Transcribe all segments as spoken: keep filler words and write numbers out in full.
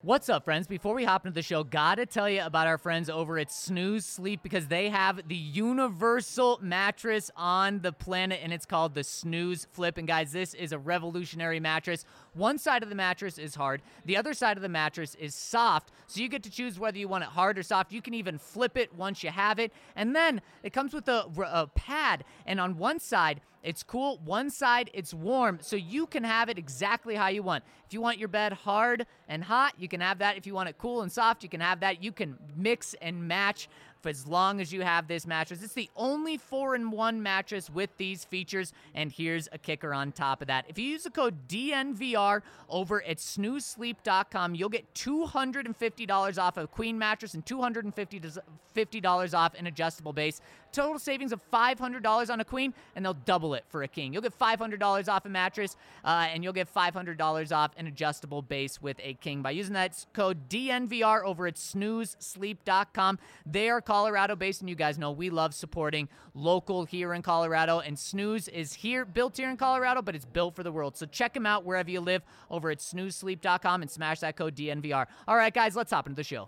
What's up, friends? Before we hop into the show, gotta tell you about our friends over at Snooze Sleep because they have the universal mattress on the planet, and it's called the Snooze Flip. And guys, this is a revolutionary mattress. One side of the mattress is hard. The other side of the mattress is soft, so you get to choose whether you want it hard or soft. You can even flip it once you have it. And then it comes with a, a pad, and on one side, it's cool. One side, it's warm, so you can have it exactly how you want. If you want your bed hard and hot, you can have that. If you want it cool and soft, you can have that. You can mix and match for as long as you have this mattress. It's the only four in one mattress with these features, and here's a kicker on top of that. If you use the code D N V R over at snooze sleep dot com, you'll get two hundred fifty dollars off a queen mattress and two hundred fifty dollars off an adjustable base. Total savings of five hundred dollars on a queen, and they'll double it for a king. You'll get five hundred dollars off a mattress, uh, and you'll get five hundred dollars off an adjustable base with a king by using that code D N V R over at snooze sleep dot com. They are Colorado-based, and you guys know we love supporting local here in Colorado, and Snooze is here, built here in Colorado, but it's built for the world. So check them out wherever you live over at snooze sleep dot com and smash that code D N V R. All right, guys, let's hop into the show.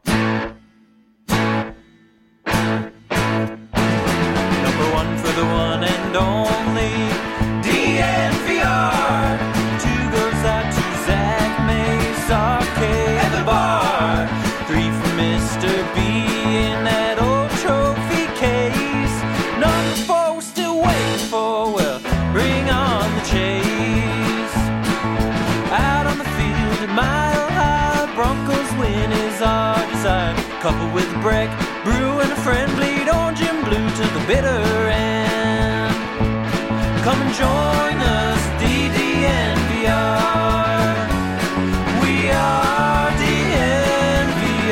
Number one for the one and only D N V R. Two goes out to Zach Mays, Arcade, and the bar. Three for Mister B in that old trophy case. Number four we're still waiting for, well, bring on the chase. Out on the field at Mile High, Broncos win is our desire. Couple with a break, brew and a friend, bleed orange and blue to the bitter end. Come and join us, D D N V R. We are D N V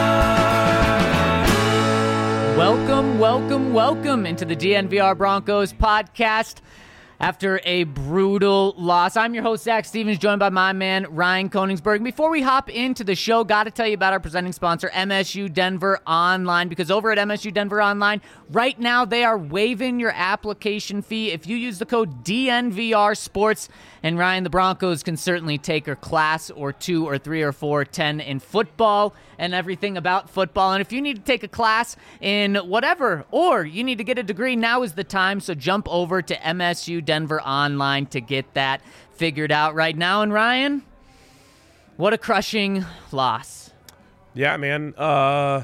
R. Welcome, welcome, welcome into the D N V R Broncos podcast. After a brutal loss, I'm your host, Zach Stevens, joined by my man, Ryan Koenigsberg. Before we hop into the show, got to tell you about our presenting sponsor, M S U Denver Online, because over at M S U Denver Online, right now, they are waiving your application fee if you use the code D N V R Sports. And Ryan, the Broncos can certainly take a class or two or three or four, ten in football and everything about football. And if you need to take a class in whatever, or you need to get a degree, now is the time. So jump over to M S U Denver Online to get that figured out right now. And Ryan, what a crushing loss. Yeah, man. Uh,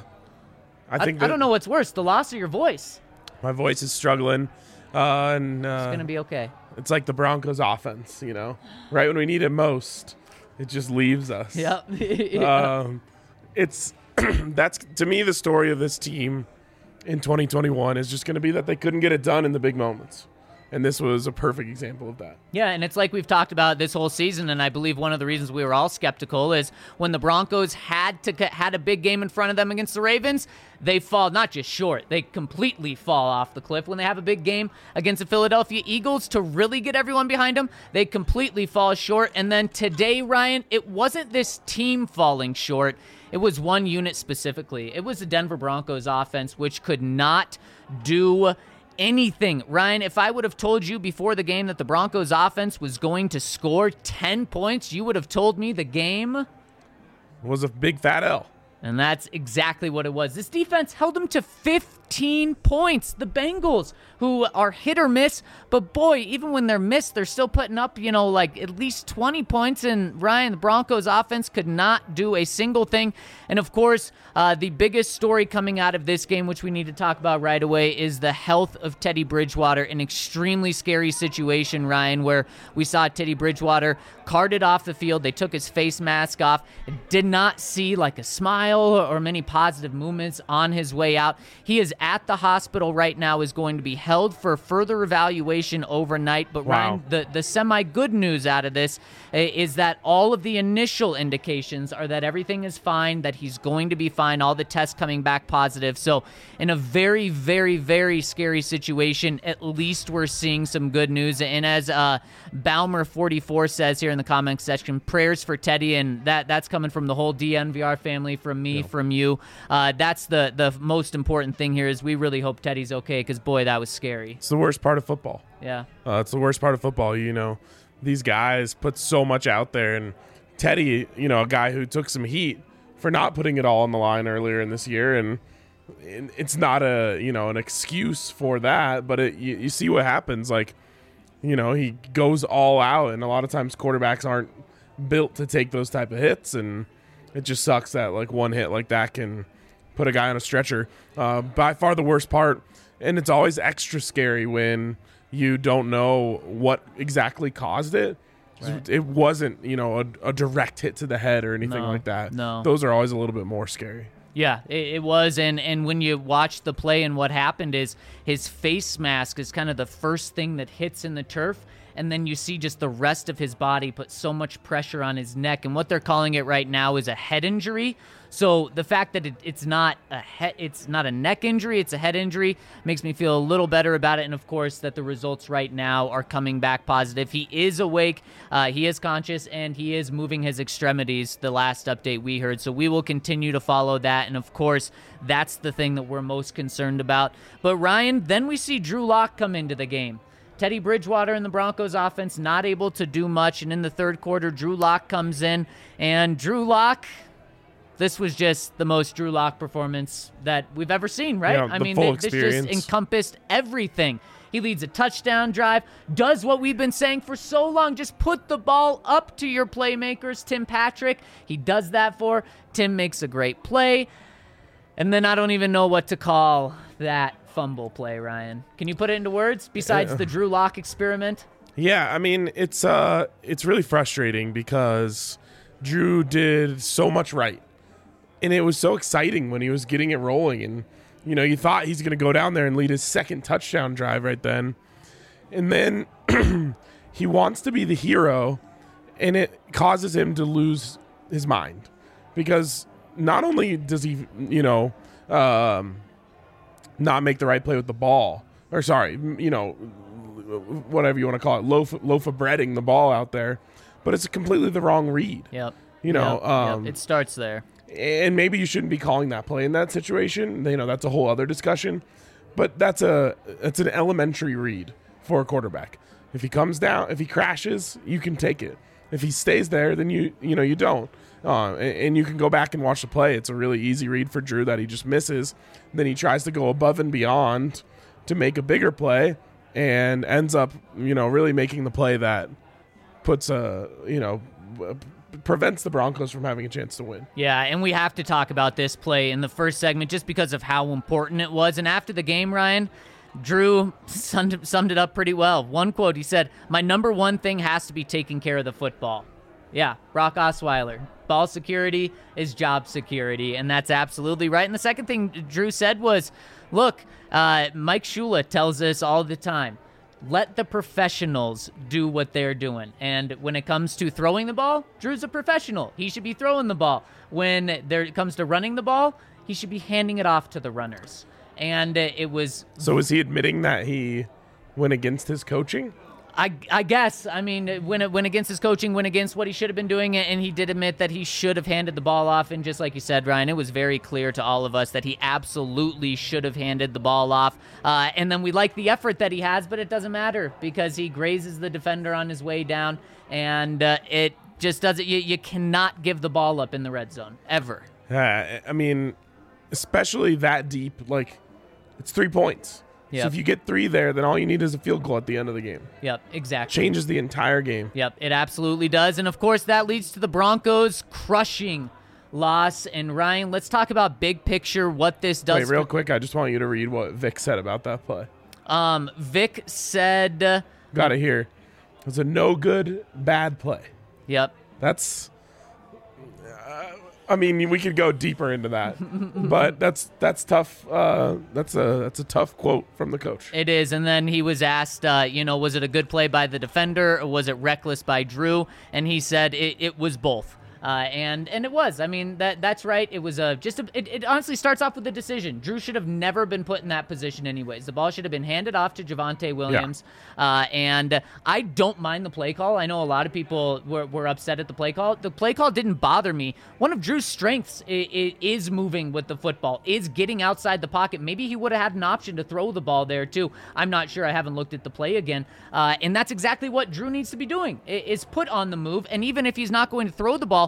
I think I, I don't know what's worse, the loss or your voice. My voice is struggling. Uh, and uh, It's going to be okay. It's like the Broncos offense, you know, right when we need it most, it just leaves us. Yep. yeah. Um, it's that's to me the story of this team in twenty twenty-one is just going to be that they couldn't get it done in the big moments. And this was a perfect example of that. Yeah, and it's like we've talked about this whole season, and I believe one of the reasons we were all skeptical is when the Broncos had to had a big game in front of them against the Ravens, they fall not just short, they completely fall off the cliff. When they have a big game against the Philadelphia Eagles to really get everyone behind them, they completely fall short. And then today, Ryan, it wasn't this team falling short. It was one unit specifically. It was the Denver Broncos offense, which could not do anything. Ryan, if I would have told you before the game that the Broncos offense was going to score ten points, you would have told me the game was a big fat L. And that's exactly what it was. This defense held them to fifteen points. The Bengals, who are hit or miss, but boy, even when they're missed, they're still putting up, you know, like at least twenty points. And Ryan, the Broncos offense could not do a single thing. And of course, uh, the biggest story coming out of this game, which we need to talk about right away, is the health of Teddy Bridgewater. An extremely scary situation, Ryan, where we saw Teddy Bridgewater carted off the field. They took his face mask off. Did not see like a smile or many positive movements on his way out. He is at the hospital right now, is going to be held for further evaluation overnight. But Wow. Ryan, the, the semi-good news out of this uh, is that all of the initial indications are that everything is fine, that he's going to be fine, all the tests coming back positive. So in a very, very, very scary situation, at least we're seeing some good news. And as uh, Baumer forty-four says here in the comment section, prayers for Teddy, and that that's coming from the whole D N V R family, from me, Yeah. from you. Uh, that's the, the most important thing here is we really hope Teddy's okay because, boy, that was scary. It's the worst part of football. Yeah. Uh, it's the worst part of football. You know, these guys put so much out there, and Teddy, you know, a guy who took some heat for not putting it all on the line earlier in this year, and it's not a you know an excuse for that, but it, you, you see what happens. Like, you know, he goes all out, and a lot of times quarterbacks aren't built to take those type of hits, and it just sucks that like one hit like that can put a guy on a stretcher. Uh, by far the worst part, and it's always extra scary when you don't know what exactly caused it. Right. It wasn't, you know, a, a direct hit to the head or anything no, like that. No, those are always a little bit more scary. Yeah, it, it was, and, and when you watch the play and what happened is his face mask is kind of the first thing that hits in the turf, and then you see just the rest of his body put so much pressure on his neck, and what they're calling it right now is a head injury. So the fact that it, it's not a he- it's not a neck injury, it's a head injury, makes me feel a little better about it. And of course, that the results right now are coming back positive. He is awake, uh, he is conscious, and he is moving his extremities. The last update we heard, so we will continue to follow that. And of course, that's the thing that we're most concerned about. But Ryan, then we see Drew Lock come into the game. Teddy Bridgewater in the Broncos offense not able to do much, and in the third quarter, Drew Lock comes in, and Drew Lock. This was just the most Drew Lock performance that we've ever seen, right? Yeah, I the mean, full this experience. just encompassed everything. He leads a touchdown drive, does what we've been saying for so long, just put the ball up to your playmakers, Tim Patrick. He does that for. Tim makes a great play. And then I don't even know what to call that fumble play, Ryan. Can you put it into words besides Yeah. the Drew Lock experiment? Yeah, I mean, it's uh, it's really frustrating because Drew did so much right. And it was so exciting when he was getting it rolling. And, you know, you thought he's going to go down there and lead his second touchdown drive right then. And then he wants to be the hero, and it causes him to lose his mind. Because not only does he, you know, um, not make the right play with the ball, or sorry, you know, whatever you want to call it, loaf, loaf of breading the ball out there, but it's completely the wrong read. Yep. You know, Yep. um, Yep. It starts there. And maybe you shouldn't be calling that play in that situation. You know, that's a whole other discussion. But that's a that's an elementary read for a quarterback. If he comes down, if he crashes, you can take it. If he stays there, then you you know you don't. Uh, and, and you can go back and watch the play. It's a really easy read for Drew that he just misses. Then he tries to go above and beyond to make a bigger play, and ends up you know really making the play that puts a you know. prevents the Broncos from having a chance to win. Yeah, and we have to talk about this play in the first segment just because of how important it was. And after the game, Ryan, Drew summed, summed it up pretty well. One quote, he said, "My number one thing has to be taking care of the football." Yeah, Brock Osweiler. Ball security is job security, and that's absolutely right. And the second thing Drew said was, look, uh, Mike Shula tells us all the time, let the professionals do what they're doing. And when it comes to throwing the ball, Drew's a professional. He should be throwing the ball. When there it comes to running the ball, he should be handing it off to the runners. And uh, it was... So is he admitting that he went against his coaching? I, I guess. I mean, when it went against his coaching, went against what he should have been doing, and he did admit that he should have handed the ball off. And just like you said, Ryan, it was very clear to all of us that he absolutely should have handed the ball off. Uh, and then we like the effort that he has, but it doesn't matter because he grazes the defender on his way down, and uh, it just doesn't. You, you cannot give the ball up in the red zone ever. Yeah, I mean, especially that deep. Like, it's three points. Yep. So if you get three there, then all you need is a field goal at the end of the game. Yep, exactly. Changes the entire game. Yep, it absolutely does. And, of course, that leads to the Broncos crushing loss. And, Ryan, let's talk about big picture, what this does. Wait, real for- quick, I just want you to read what Vic said about that play. Um, Vic said... Uh, Got it here. It was a no good, bad play. Yep. That's... Uh, I mean, we could go deeper into that, but that's that's tough. Uh, that's a that's a tough quote from the coach. It is, and then he was asked, uh, you know, was it a good play by the defender or was it reckless by Drew? And he said it, it was both. Uh, and and it was. I mean, that that's right. It was a just a, it, it honestly starts off with a decision. Drew should have never been put in that position anyways. The ball should have been handed off to Javonte Williams. Yeah. Uh, and I don't mind the play call. I know a lot of people were, were upset at the play call. The play call didn't bother me. One of Drew's strengths is, is moving with the football, is getting outside the pocket. Maybe he would have had an option to throw the ball there too. I'm not sure. I haven't looked at the play again. Uh, and that's exactly what Drew needs to be doing, is put on the move. And even if he's not going to throw the ball,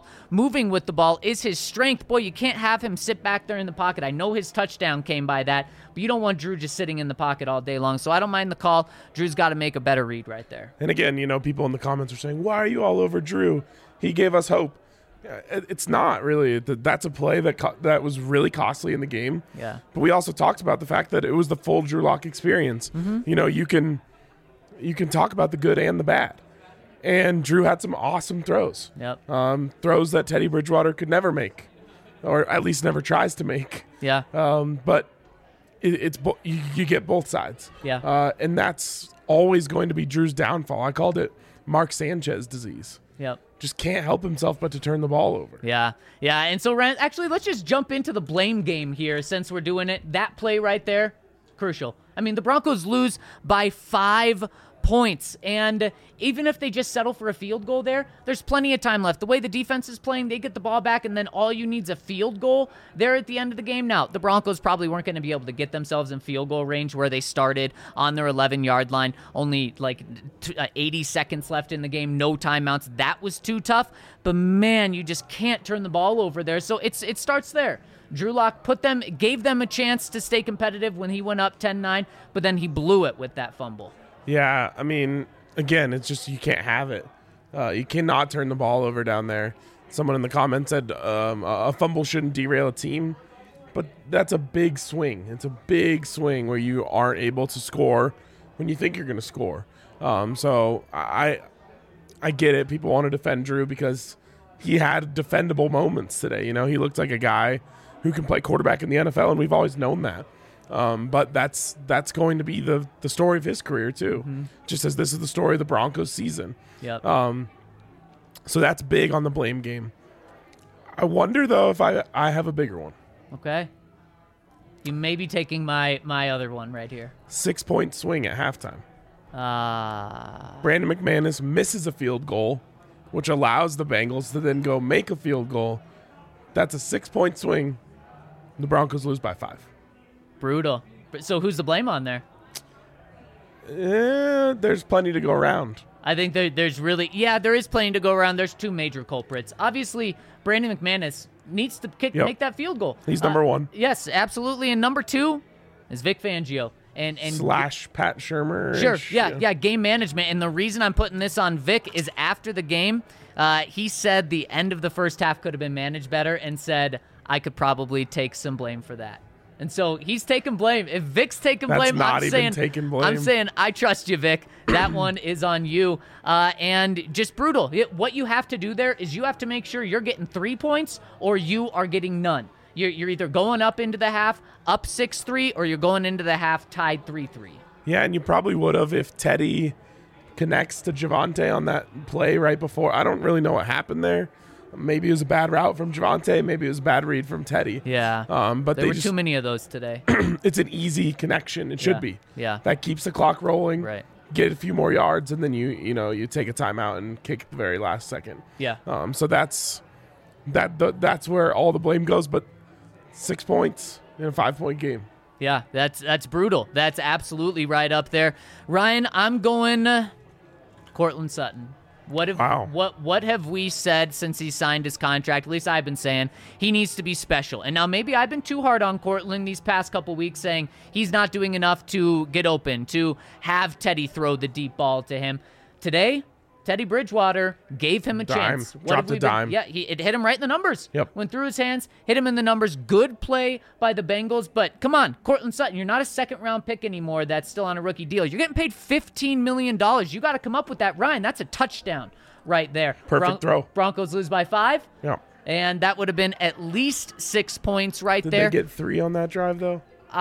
ball, moving with the ball is his strength. Boy, you can't have him sit back there in the pocket. I know his touchdown came by that, but you don't want Drew just sitting in the pocket all day long. So I don't mind the call. Drew's got to make a better read right there. And again, you know, people in the comments are saying, why are you all over Drew? He gave us hope. It's not really. That's a play that co- that was really costly in the game. Yeah. But we also talked about the fact that it was the full Drew Lock experience. Mm-hmm. You know, you can you can talk about the good and the bad. And Drew had some awesome throws. Yep. Um, throws that Teddy Bridgewater could never make, or at least never tries to make. Yeah. Um, but it, it's bo- you, you get both sides. Yeah. Uh, and that's always going to be Drew's downfall. I called it Mark Sanchez disease. Yep. Just can't help himself but to turn the ball over. Yeah, yeah. And so, Ryan, actually, let's just jump into the blame game here since we're doing it. That play right there, crucial. I mean, the Broncos lose by five points. And even if they just settle for a field goal there, there's plenty of time left. The way the defense is playing, they get the ball back, and then all you need is a field goal there at the end of the game. Now, the Broncos probably weren't going to be able to get themselves in field goal range where they started on their eleven-yard line. Only like eighty seconds left in the game, no timeouts. That was too tough. But, man, you just can't turn the ball over there. So it's it starts there. Drew Lock put them, gave them a chance to stay competitive when he went up ten nine, but then he blew it with that fumble. Yeah, I mean, again, it's just you can't have it. Uh, you cannot turn the ball over down there. Someone in the comments said um, a fumble shouldn't derail a team, but that's a big swing. It's a big swing where you aren't able to score when you think you're going to score. Um, so I, I get it. People want to defend Drew because he had defendable moments today. You know, he looked like a guy who can play quarterback in the N F L, and we've always known that. Um, but that's that's going to be the, the story of his career, too, mm-hmm. just as this is the story of the Broncos season. Yep. Um, so that's big on the blame game. I wonder, though, if I, I have a bigger one. Okay. You may be taking my, my other one right here. Six-point swing at halftime. Ah. Uh... Brandon McManus misses a field goal, which allows the Bengals to then go make a field goal. That's a six-point swing. The Broncos lose by five. Brutal. So who's the blame on there? Eh, there's plenty to go around. I think there, there's really, yeah, there is plenty to go around. There's two major culprits. Obviously, Brandon McManus needs to kick, yep. make that field goal. He's number uh, one. Yes, absolutely. And number two is Vic Fangio. And, and Slash Pat Shurmur. Sure, yeah, yeah, yeah, game management. And the reason I'm putting this on Vic is after the game, uh, he said the end of the first half could have been managed better and said, I could probably take some blame for that. And so he's taking blame. If Vic's taking That's blame, not I'm even saying, taking blame. I'm saying I trust you, Vic. That one is on you. Uh, and just brutal. It, what you have to do there is you have to make sure you're getting three points or you are getting none. You're, you're either going up into the half, up six three, or you're going into the half tied three three. Yeah, and you probably would have if Teddy connects to Javonte on that play right before. I don't really know what happened there. Maybe it was a bad route from Javonte. Maybe it was a bad read from Teddy. Yeah. Um, but there they were just, too many of those today. It's an easy connection. It should yeah. be. Yeah. That keeps the clock rolling. Right. Get a few more yards, and then you you know you take a timeout and kick at the very last second. Yeah. Um. So that's that. The, that's where all the blame goes. But six points in a five-point game. Yeah. That's that's brutal. That's absolutely right up there. Ryan, I'm going uh, Courtland Sutton. What have wow. what what have we said since he signed his contract? At least I've been saying he needs to be special. And now maybe I've been too hard on Courtland these past couple weeks, saying he's not doing enough to get open, to have Teddy throw the deep ball to him. Today, Teddy Bridgewater gave him a dime. chance. What Dropped a dime. Been, yeah, he, it hit him right in the numbers. Yep. Went through his hands, hit him in the numbers. Good play by the Bengals. But come on, Courtland Sutton, you're not a second-round pick anymore that's still on a rookie deal. You're getting paid fifteen million dollars. You got to come up with that. Ryan, that's a touchdown right there. Perfect Bron- throw. Broncos lose by five. Yeah. And that would have been at least six points right Did there. Did they get three on that drive, though?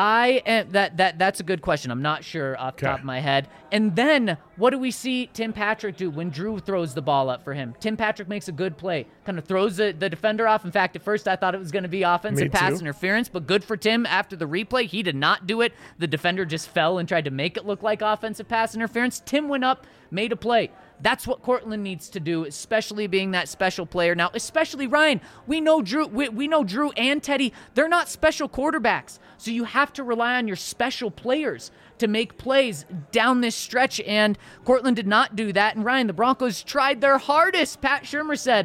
I am, that that that's a good question. I'm not sure off the okay. top of my head. And then what do we see Tim Patrick do when Drew throws the ball up for him? Tim Patrick makes a good play, kind of throws the, the defender off. In fact, at first I thought it was going to be offensive Me pass too. interference, but good for Tim after the replay. He did not do it. The defender just fell and tried to make it look like offensive pass interference. Tim went up, made a play. That's what Courtland needs to do, especially being that special player. Now, especially Ryan, we know Drew, we, we know Drew and Teddy, they're not special quarterbacks. So you have to rely on your special players to make plays down this stretch, and Courtland did not do that. And Ryan, the Broncos tried their hardest. Pat Shurmur said,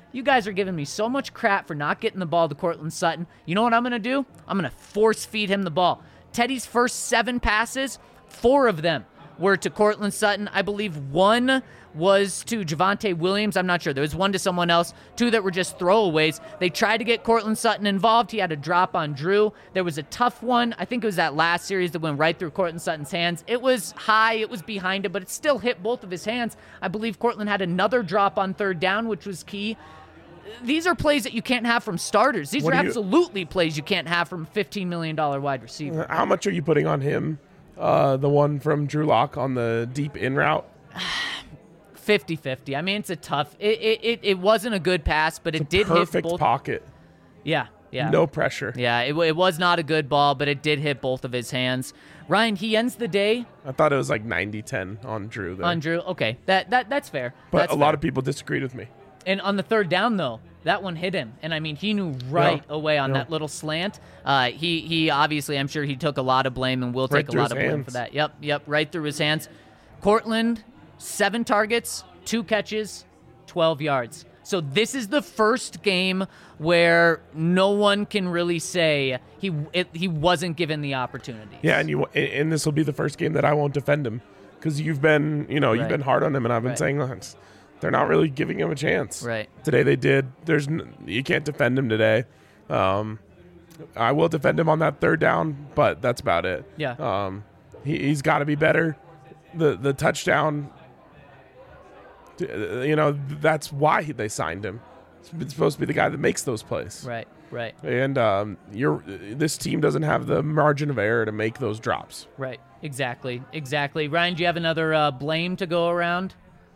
you guys are giving me so much crap for not getting the ball to Courtland Sutton. You know what I'm going to do? I'm going to force feed him the ball. Teddy's first seven passes, four of them were to Courtland Sutton. I believe one was to Javonte Williams. I'm not sure. There was one to someone else. Two that were just throwaways. They tried to get Courtland Sutton involved. He had a drop on Drew. There was a tough one. I think it was that last series that went right through Courtland Sutton's hands. It was high. It was behind him, but it still hit both of his hands. I believe Courtland had another drop on third down, which was key. These are plays that you can't have from starters. These What are do you- absolutely plays you can't have from a fifteen million dollars wide receiver. How much are you putting on him? Uh, the one from Drew Lock on the deep in route. fifty-fifty. I mean, it's a tough. It it, it, it wasn't a good pass, but it did hit Perfect both. pocket. Yeah, yeah. No pressure. Yeah, it, it was not a good ball, but it did hit both of his hands. Ryan, he ends the day I thought it was like ninety ten on Drew there. on Drew. Okay, that that that's fair. but that's a lot fair. of people disagreed with me. And on the third down, though, that one hit him. And, I mean, he knew right Yeah. away on Yeah. that little slant. Uh, he, he obviously, I'm sure he took a lot of blame and will Right take a through lot his of blame hands. for that. Yep, yep, right through his hands. Cortland, seven targets, two catches, twelve yards. So this is the first game where no one can really say he it, he wasn't given the opportunity. Yeah, and you and- and this will be the first game that I won't defend him because you've been, you know, you've Right. been hard on him, and I've been Right. saying "Look, it's- they're not really giving him a chance. Right. Today they did. There's n- you can't defend him today. Um, I will defend him on that third down, but that's about it. Yeah. Um, he, he's got to be better. The the touchdown. uh, You know, that's why he- they signed him. It's supposed to be the guy that makes those plays. Right, right, And um, you're this team doesn't have the margin of error to make those drops. right. Exactly, exactly. Ryan, do you have another uh, blame to go around?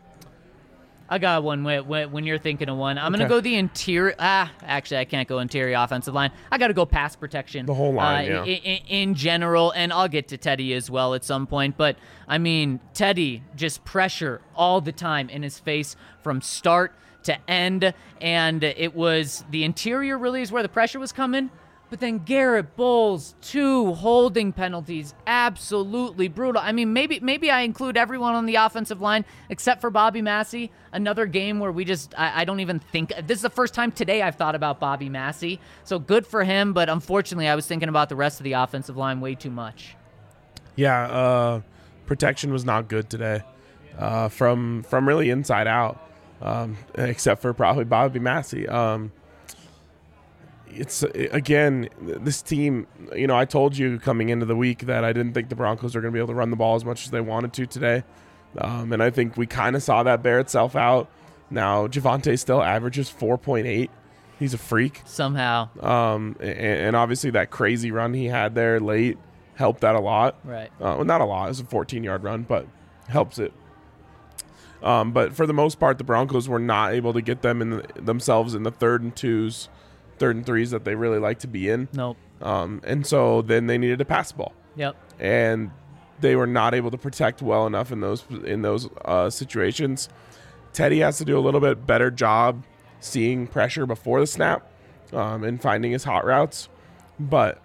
I got one when, when, when you're thinking of one. I'm going to Okay. go the interior. Ah, actually, I can't go interior offensive line. I got to go pass protection. The whole line, uh, yeah. In, in, in general, and I'll get to Teddy as well at some point. But, I mean, Teddy, just pressure all the time in his face from start to end. And it was the interior really is where the pressure was coming. But then Garrett Bowles, two holding penalties, absolutely brutal. I mean, maybe maybe I include everyone on the offensive line except for Bobby Massey. Another game where we just, I, I don't even think, this is the first time today I've thought about Bobby Massey. So good for him, but unfortunately I was thinking about the rest of the offensive line way too much. Yeah, uh, protection was not good today, uh, from from really inside out, um, except for probably Bobby Massey. Um, it's again this team. You know, I told you coming into the week that I didn't think the Broncos were going to be able to run the ball as much as they wanted to today, um, and I think we kind of saw that bear itself out. Now Javonte still averages four point eight. He's a freak. Somehow. Um, and, and obviously that crazy run he had there late helped that a lot. Right. Uh, well, not a lot. It was a fourteen-yard run, but helps it. Um, but for the most part, the Broncos were not able to get them in the, themselves in the third and twos, third and threes that they really like to be in. Nope. Um, and so then they needed to pass the ball, Yep. and they were not able to protect well enough in those in those uh, situations. Teddy has to do a little bit better job seeing pressure before the snap, um, and finding his hot routes. But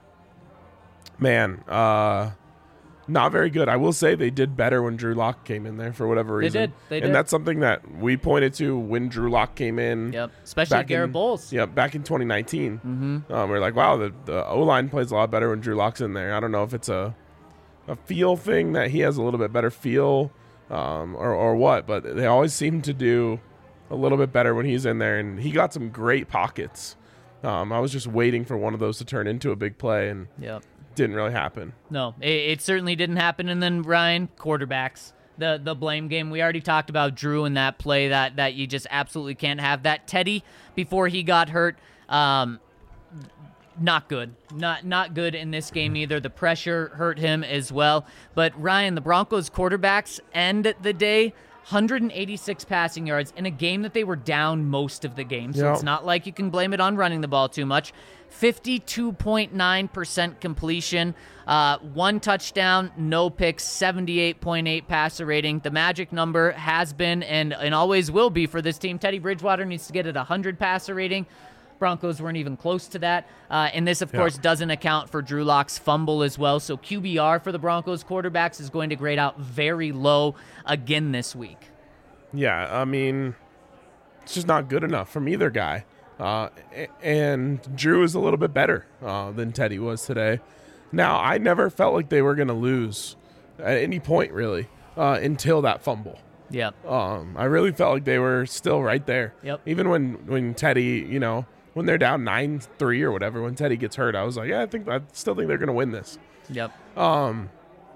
man, uh, not very good. I will say they did better when Drew Lock came in there for whatever They reason. did. They and did. that's something that we pointed to when Drew Lock came in. Yep. Especially back Garrett in, Bowles. Yeah, back in twenty nineteen. Mm-hmm. Um, we are like, wow, the, the O-line plays a lot better when Drew Lock's in there. I don't know if it's a a feel thing that he has a little bit better feel, um, or, or what, but they always seem to do a little bit better when he's in there, and he got some great pockets. Um, I was just waiting for one of those to turn into a big play, and Yep. didn't really happen. No, it, it certainly didn't happen. And then Ryan, quarterbacks, the the blame game. We already talked about Drew and that play that that you just absolutely can't have. That Teddy before he got hurt, um, not good. Not not good in this game either. The pressure hurt him as well. But Ryan, the Broncos quarterbacks end the day. one hundred eighty-six passing yards in a game that they were down most of the game. So Yep. it's not like you can blame it on running the ball too much. fifty-two point nine percent completion, uh, one touchdown, no picks, seventy-eight point eight passer rating. The magic number has been and, and always will be for this team. Teddy Bridgewater needs to get at one hundred passer rating. Broncos weren't even close to that. Uh, and this, of Yeah. course, doesn't account for Drew Lock's fumble as well. So Q B R for the Broncos quarterbacks is going to grade out very low again this week. Yeah, I mean, it's just not good enough from either guy. Uh, and Drew is a little bit better uh, than Teddy was today. Now, I never felt like they were going to lose at any point, really, uh, until that fumble. Yep. Um, I really felt like they were still right there. Yep. Even when, when Teddy, you know, when they're down nine three or whatever, when Teddy gets hurt, I was like, yeah, I think I still think they're going to win this. Yep. Um,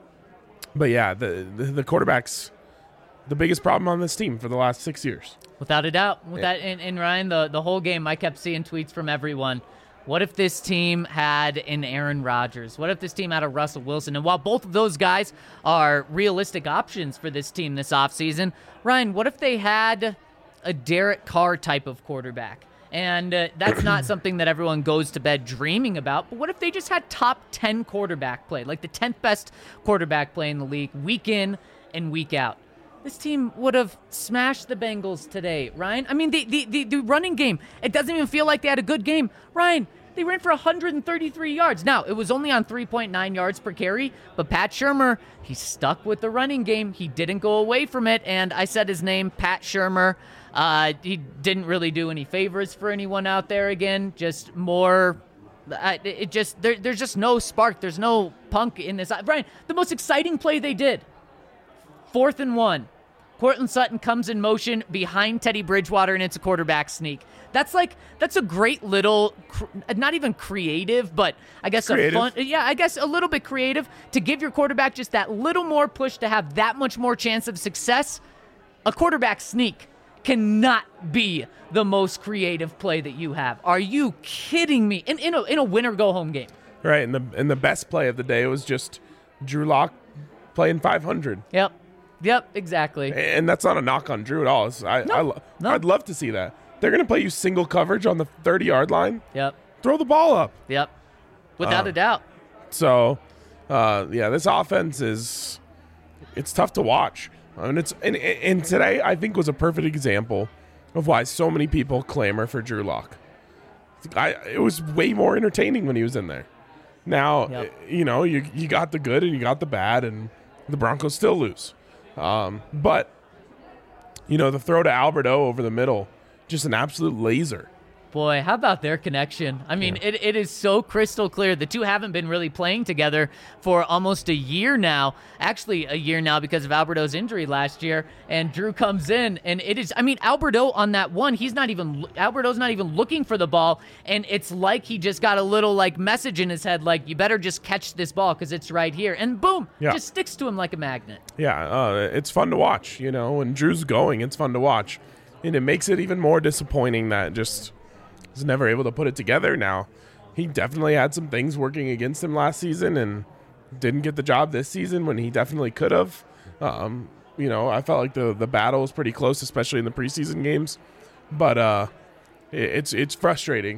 but yeah, the, the the quarterback's the biggest problem on this team for the last six years. Without a doubt. With that, and, and Ryan, the, the whole game, I kept seeing tweets from everyone. What if this team had an Aaron Rodgers? What if this team had a Russell Wilson? And while both of those guys are realistic options for this team this offseason, Ryan, what if they had a Derek Carr type of quarterback? And uh, that's not something that everyone goes to bed dreaming about. But what if they just had top ten quarterback play, like the tenth best quarterback play in the league, week in and week out? This team would have smashed the Bengals today, Ryan. I mean, the, the, the, the running game, it doesn't even feel like they had a good game. Ryan, they ran for one hundred thirty-three yards. Now, it was only on three point nine yards per carry, but Pat Shurmur, he stuck with the running game. He didn't go away from it, and I said his name, Pat Shurmur. Uh, he didn't really do any favors for anyone out there again, just more... Uh, it just there, There's just no spark. There's no punk in this. Ryan, the most exciting play they did, fourth and one. Courtland Sutton comes in motion behind Teddy Bridgewater, and it's a quarterback sneak. That's like, that's a great little, not even creative, but I guess creative. a fun, yeah, I guess a little bit creative to give your quarterback just that little more push to have that much more chance of success. A quarterback sneak cannot be the most creative play that you have. Are you kidding me? In, in a, in a winner-go-home game. Right, and the and the best play of the day was just Drew Lock playing five hundred. Yep. Yep, exactly. And that's not a knock on Drew at all. It's, I, No, I lo- no. I'd love to see that. They're going to play you single coverage on the thirty-yard line. Yep, Throw the ball up. yep. Without Uh, a doubt. So, uh, yeah, this offense is it's tough to watch. I mean, it's and, and today I think was a perfect example of why so many people clamor for Drew Lock. I it was way more entertaining when he was in there. Now, Yep. you know, you you got the good and you got the bad, and the Broncos still lose. Um, but, you know, the throw to Alberto over the middle, just an absolute laser. Boy, how about their connection? I mean, Yeah. it, it is so crystal clear. The two haven't been really playing together for almost a year now. Actually, a year now because of Alberto's injury last year. And Drew comes in, and it is, I mean, Alberto on that one, he's not even, Alberto's not even looking for the ball. And it's like he just got a little, like, message in his head, like, you better just catch this ball because it's right here. And boom, Yeah. just sticks to him like a magnet. Yeah, uh, it's fun to watch, you know. When Drew's going, it's fun to watch. And it makes it even more disappointing that just was never able to put it together. Now, he definitely had some things working against him last season and didn't get the job this season when he definitely could have. Um, you know, I felt like the the battle was pretty close, especially in the preseason games. But uh, it, it's it's frustrating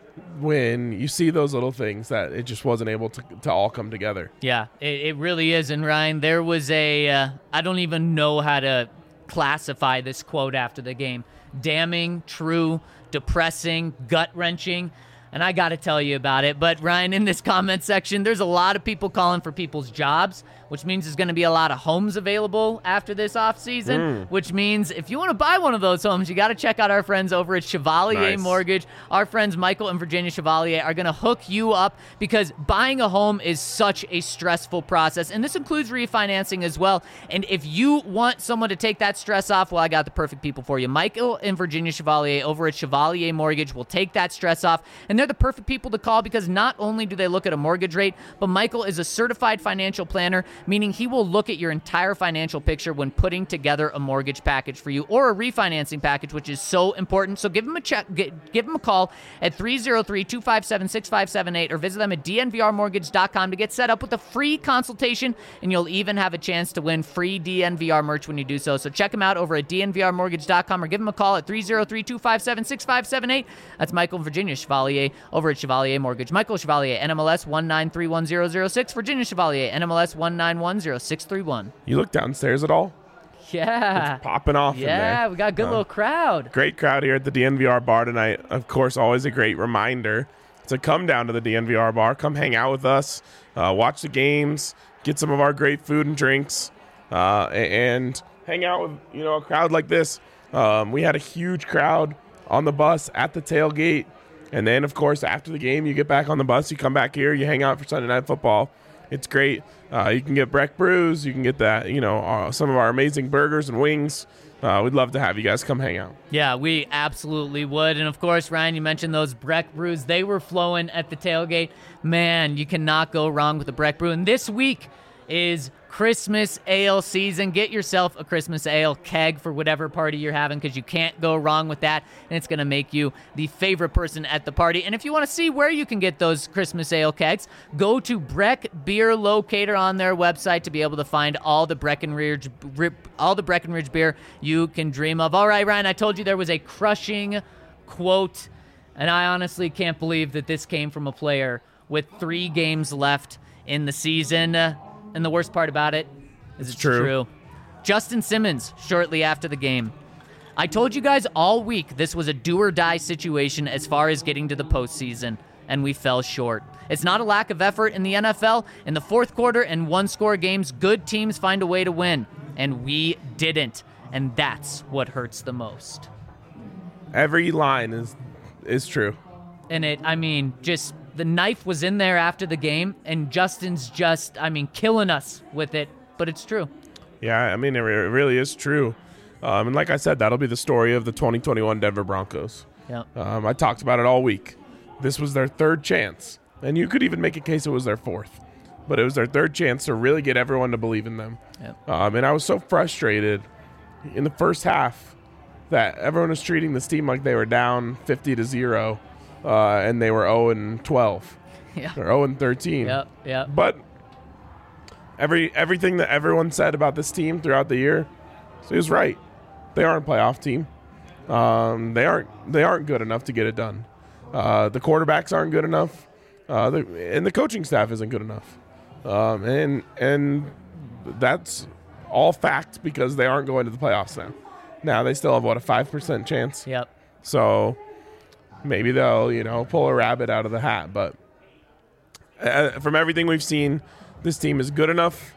when you see those little things that it just wasn't able to, to all come together. Yeah, it, it really is. And Ryan, there was a, uh, I don't even know how to classify this quote after the game. Damning, true, depressing, gut-wrenching, and I got to tell you about it. But Ryan, in this comment section, there's a lot of people calling for people's jobs, which means there's going to be a lot of homes available after this offseason, Mm. which means if you want to buy one of those homes, you got to check out our friends over at Chevalier Nice. Mortgage. Our friends Michael and Virginia Chevalier are going to hook you up because buying a home is such a stressful process, and this includes refinancing as well. And if you want someone to take that stress off, well, I got the perfect people for you. Michael and Virginia Chevalier over at Chevalier Mortgage will take that stress off, and they're the perfect people to call because not only do they look at a mortgage rate, but Michael is a certified financial planner, meaning he will look at your entire financial picture when putting together a mortgage package for you or a refinancing package, which is so important. So give him a check, get, give him a call at three oh three, two five seven, six five seven eight or visit them at d n v r mortgage dot com to get set up with a free consultation, and you'll even have a chance to win free D N V R merch when you do so. So check them out over at d n v r mortgage dot com or give them a call at three oh three, two five seven, six five seven eight. That's Michael and Virginia Chevalier over at Chevalier Mortgage. Michael Chevalier, N M L S one nine three one zero zero six. Virginia Chevalier, N M L S one nine one zero six three one. You look downstairs at all? Yeah. Popping off in there. Yeah, we got a good Uh, little crowd. Great crowd here at the D N V R bar tonight. Of course, always a great reminder to come down to the D N V R bar. Come hang out with us, uh, watch the games, get some of our great food and drinks, uh, a- and hang out with you know a crowd like this. Um, we had a huge crowd on the bus at the tailgate. And then, of course, after the game, you get back on the bus, you come back here, you hang out for Sunday Night Football. It's great. Uh, you can get Breck Brews. You can get that, you know, uh, some of our amazing burgers and wings. Uh, we'd love to have you guys come hang out. Yeah, we absolutely would. And, of course, Ryan, you mentioned those Breck Brews. They were flowing at the tailgate. Man, you cannot go wrong with the Breck Brew. And this week is Christmas ale season. Get yourself a Christmas ale keg for whatever party you're having, because you can't go wrong with that, and it's going to make you the favorite person at the party. And if you want to see where you can get those Christmas ale kegs, go to Breck Beer Locator on their website to be able to find all the Breckenridge all the Breckenridge beer you can dream of. All right, Ryan, I told you there was a crushing quote, and I honestly can't believe that this came from a player with three games left in the season. And the worst part about it is it's true. true. Justin Simmons, shortly after the game. I told you guys all week this was a do-or-die situation as far as getting to the postseason, and we fell short. It's not a lack of effort in the N F L. In the fourth quarter and one-score games, good teams find a way to win, and we didn't. And that's what hurts the most. Every line is is true. And it, I mean, just... the knife was in there after the game, and Justin's just, I mean, killing us with it, but it's true. Yeah, I mean, it re- it really is true. Um, and like I said, that'll be the story of the twenty twenty-one Denver Broncos. Yeah. Um, I talked about it all week. This was their third chance, and you could even make a case it was their fourth. But it was their third chance to really get everyone to believe in them. Yep. Um, and I was so frustrated in the first half that everyone was treating this team like they were down fifty to zero. Uh, and they were oh and twelve. Yeah. Or oh and thirteen. Yep, yep. But every everything that everyone said about this team throughout the year, so he was right. They aren't a playoff team. Um, they aren't they aren't good enough to get it done. Uh, the quarterbacks aren't good enough, uh, the, and the coaching staff isn't good enough. Um, and and that's all fact because they aren't going to the playoffs now. Now they still have what, a five percent chance. Yep. So maybe they'll, you know, pull a rabbit out of the hat. But uh, from everything we've seen, this team is good enough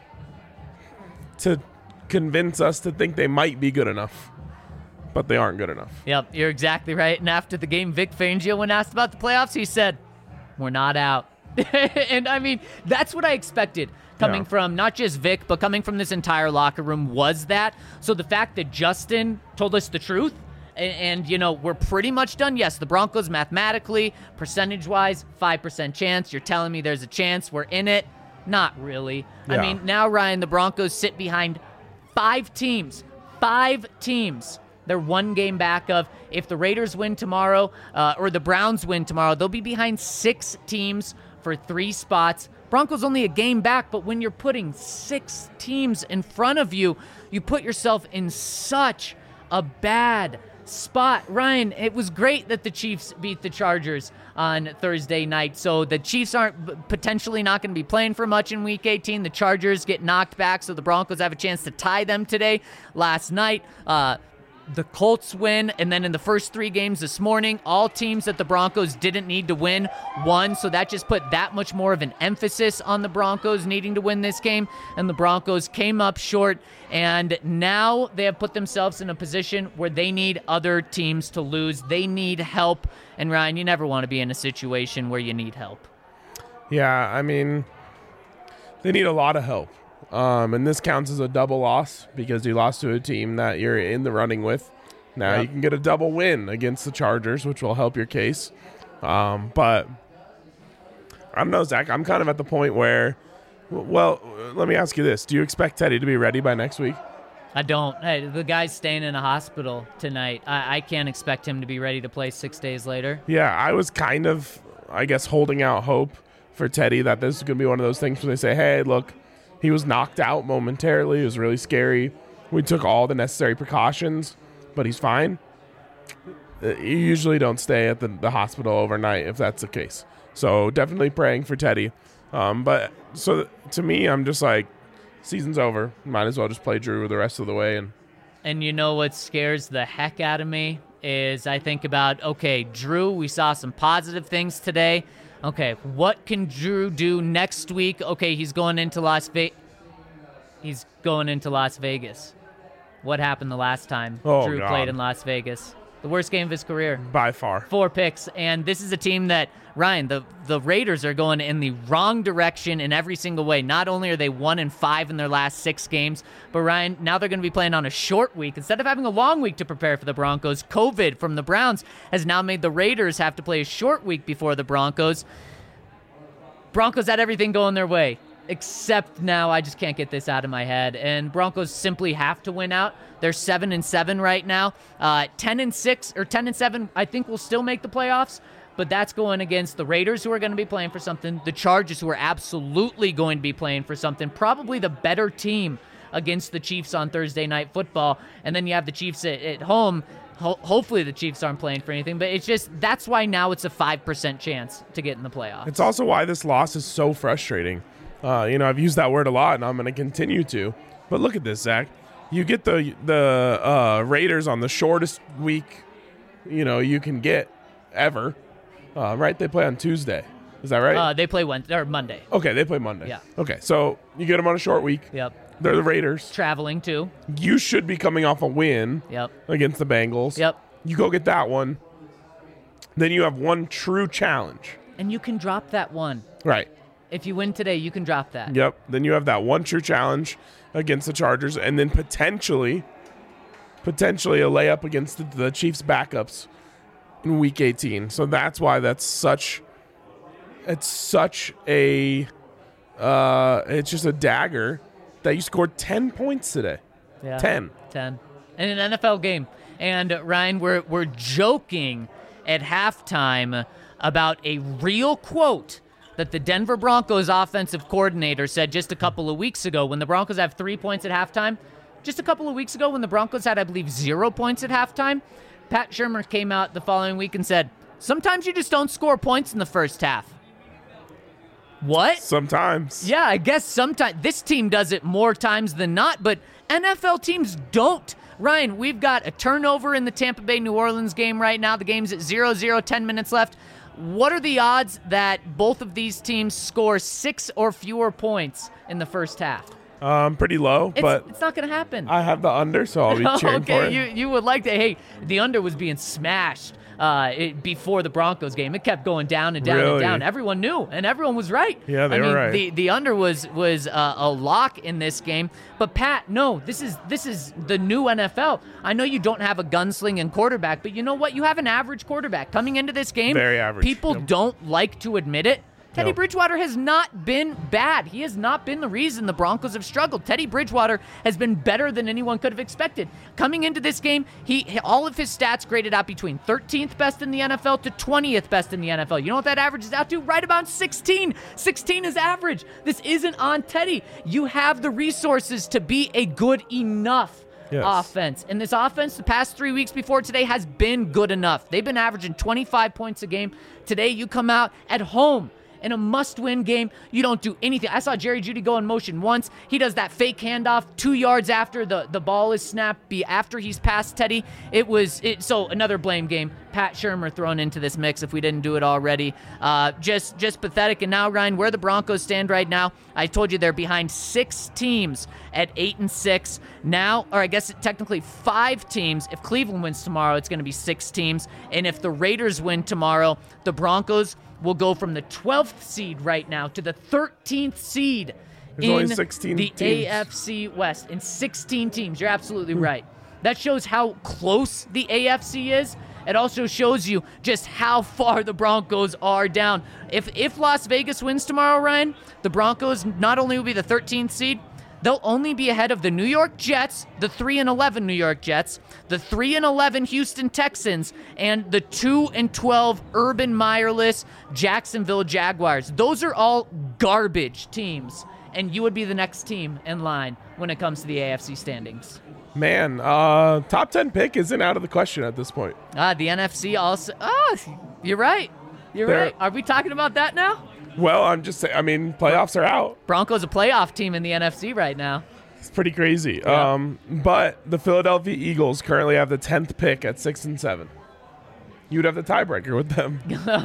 to convince us to think they might be good enough. But they aren't good enough. Yep, you're exactly right. And after the game, Vic Fangio, when asked about the playoffs, he said, we're not out. And, I mean, that's what I expected coming Yeah. from not just Vic, but coming from this entire locker room was that. So the fact that Justin told us the truth, and, and you know, we're pretty much done. Yes, the Broncos mathematically, percentage-wise, five percent chance. You're telling me there's a chance we're in it? Not really. Yeah. I mean, now, Ryan, the Broncos sit behind five teams. Five teams. They're one game back of, if the Raiders win tomorrow uh, or the Browns win tomorrow, they'll be behind six teams for three spots. Broncos only a game back, but when you're putting six teams in front of you, you put yourself in such a bad spot. Ryan, it was great that the Chiefs beat the Chargers on Thursday night, so the Chiefs aren't potentially not going to be playing for much in Week eighteen. The Chargers get knocked back, so the Broncos have a chance to tie them today. Last night, uh, the Colts win, and then in the first three games this morning, all teams that the Broncos didn't need to win won, so that just put that much more of an emphasis on the Broncos needing to win this game, and the Broncos came up short, and now they have put themselves in a position where they need other teams to lose. They need help, and Ryan, you never want to be in a situation where you need help. Yeah, I mean, they need a lot of help. Um, and this counts as a double loss because you lost to a team that you're in the running with. Now Yep. you can get a double win against the Chargers, which will help your case. Um, but I don't know, Zach. I'm kind of at the point where, well, let me ask you this. Do you expect Teddy to be ready by next week? I don't. Hey, the guy's staying in a hospital tonight. I, I can't expect him to be ready to play six days later. Yeah, I was kind of, I guess, holding out hope for Teddy that this is going to be one of those things where they say, hey, look, he was knocked out momentarily. It was really scary. We took all the necessary precautions, but he's fine. You usually don't stay at the, the hospital overnight if that's the case. So definitely praying for Teddy. Um, but so to me, I'm just like, season's over. Might as well just play Drew the rest of the way. And And you know what scares the heck out of me is I think about, okay, Drew, we saw some positive things today. Okay, what can Drew do next week? Okay, he's going into Las Vegas. He's going into Las Vegas. what happened the last time Oh, Drew God. played in Las Vegas. The worst game of his career. By far. Four picks, and this is a team that, Ryan, the, the Raiders are going in the wrong direction in every single way. Not only are they one and five in their last six games, but Ryan, now they're going to be playing on a short week. Instead of having a long week to prepare for the Broncos, COVID from the Browns has now made the Raiders have to play a short week before the Broncos. Broncos had everything going their way, except now I just can't get this out of my head. And Broncos simply have to win out. They're seven and seven right now. Uh, ten and six or ten and seven, I think will still make the playoffs. But that's going against the Raiders, who are going to be playing for something. The Chargers, who are absolutely going to be playing for something. Probably the better team against the Chiefs on Thursday Night Football. And then you have the Chiefs at, at home. Ho- hopefully the Chiefs aren't playing for anything. But it's just, that's why now it's a five percent chance to get in the playoffs. It's also why this loss is so frustrating. Uh, you know, I've used that word a lot, and I'm going to continue to. But look at this, Zach. You get the the uh, Raiders on the shortest week, you know, you can get ever. Uh, right? They play on Tuesday. Is that right? Uh, they play Wednesday or Monday. Okay, they play Monday. Yeah. Okay, so you get them on a short week. Yep. They're the Raiders. Traveling too. You should be coming off a win Yep. against the Bengals. Yep. You go get that one. Then you have one true challenge. And you can drop that one. Right. If you win today, you can drop that. Yep. Then you have that one true challenge against the Chargers, and then potentially, potentially a layup against the, the Chiefs' backups in Week eighteen. So that's why that's such. It's such a. Uh, it's just a dagger that you scored ten points today. Yeah. Ten. ten. In an N F L game. And uh, Ryan, we're we're joking at halftime about a real quote that the Denver Broncos offensive coordinator said just a couple of weeks ago when the Broncos have three points at halftime. Just a couple of weeks ago when the Broncos had, I believe, zero points at halftime, Pat Shurmur came out the following week and said, sometimes you just don't score points in the first half. What? Sometimes. Yeah, I guess sometimes. This team does it more times than not, but N F L teams don't. Ryan, we've got a turnover in the Tampa Bay-New Orleans game right now. The game's at zero zero, ten minutes left. What are the odds that both of these teams score six or fewer points in the first half? Um, pretty low, It's, but it's not going to happen. I have the under, so I'll be cheering okay, for it. you you would like to. Hey, the under was being smashed uh, it, before the Broncos game. It kept going down and down Really? and down. Everyone knew, and everyone was right. Yeah, they I were mean, right. The the under was was uh, a lock in this game. But Pat, no, this is this is the new N F L. I know you don't have a gunslinging quarterback, but you know what? You have an average quarterback coming into this game. Very average. People Yep. don't like to admit it. Teddy Yep. Bridgewater has not been bad. He has not been the reason the Broncos have struggled. Teddy Bridgewater has been better than anyone could have expected. Coming into this game, he all of his stats graded out between thirteenth best in the N F L to twentieth best in the N F L. You know what that averages out to? Right about sixteen. sixteen is average. This isn't on Teddy. You have the resources to be a good enough Yes. offense. And this offense, the past three weeks before today, has been good enough. They've been averaging twenty-five points a game. Today, you come out at home in a must-win game. You don't do anything. I saw Jerry Jeudy go in motion once. He does that fake handoff two yards after the, the ball is snapped, be after he's past Teddy. It was it. So another blame game. Pat Shurmur thrown into this mix if we didn't do it already. Uh, just just pathetic. And now, Ryan, where the Broncos stand right now, I told you they're behind six teams at eight and six. Now, or I guess technically five teams. If Cleveland wins tomorrow, it's going to be six teams. And if the Raiders win tomorrow, the Broncos will go from the twelfth seed right now to the thirteenth seed There's in only sixteen the teams. A F C West. In sixteen teams. You're absolutely right. That shows how close the A F C is. It also shows you just how far the Broncos are down. If if Las Vegas wins tomorrow, Ryan, the Broncos not only will be the thirteenth seed, they'll only be ahead of the New York Jets, the three and eleven New York Jets, the three and eleven Houston Texans, and the two and twelve Urban Meyerless Jacksonville Jaguars. Those are all garbage teams, and you would be the next team in line when it comes to the A F C standings. Man, uh, top ten pick isn't out of the question at this point. Ah, the N F C also. Oh, you're right. You're They're- right. Are we talking about that now? Well, I'm just saying, I mean, playoffs are out. Broncos a playoff team in the N F C right now. It's pretty crazy. Yeah. Um, but the Philadelphia Eagles currently have the tenth pick at six and seven. you'd have the tiebreaker with them.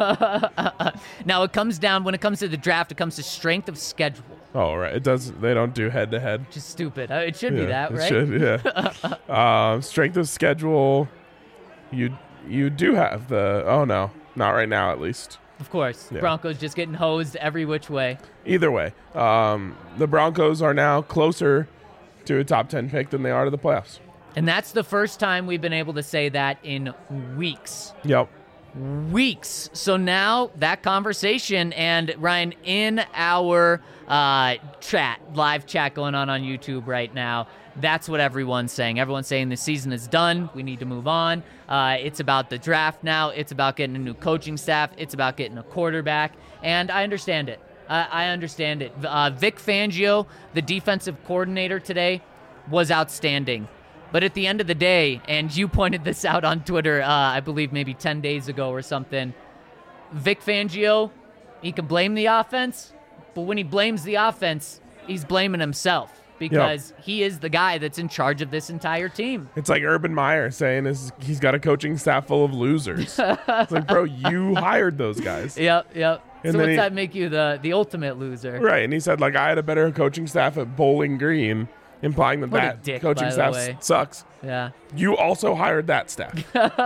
Now, it comes down, when it comes to the draft, it comes to strength of schedule. Oh, right. It does. They don't do head to head. Just stupid. Uh, It should be Yeah, that, it right? should, yeah. um, strength of schedule. You you do have the. Oh no, not right now at least. Of course. Yeah. Broncos just getting hosed every which way. Either way, um, the Broncos are now closer to a top ten pick than they are to the playoffs. And that's the first time we've been able to say that in weeks. Yep. Weeks. So now that conversation, and Ryan, in our uh, chat, live chat going on on YouTube right now, that's what everyone's saying. Everyone's saying the season is done. We need to move on. Uh, it's about the draft now. It's about getting a new coaching staff. It's about getting a quarterback. And I understand it. I, I understand it. Uh, Vic Fangio, the defensive coordinator today, was outstanding. But at the end of the day, and you pointed this out on Twitter, uh, I believe maybe ten days ago or something, Vic Fangio, he can blame the offense, but when he blames the offense, he's blaming himself because he is the guy that's in charge of this entire team. It's like Urban Meyer saying is he's got a coaching staff full of losers. It's like, bro, you hired those guys. Yep, yep. And so then what's he- that make you the, the ultimate loser? Right. And he said, like, I had a better coaching staff at Bowling Green, implying that What a that dick, coaching by the staff way. sucks. Yeah. You also hired that staff.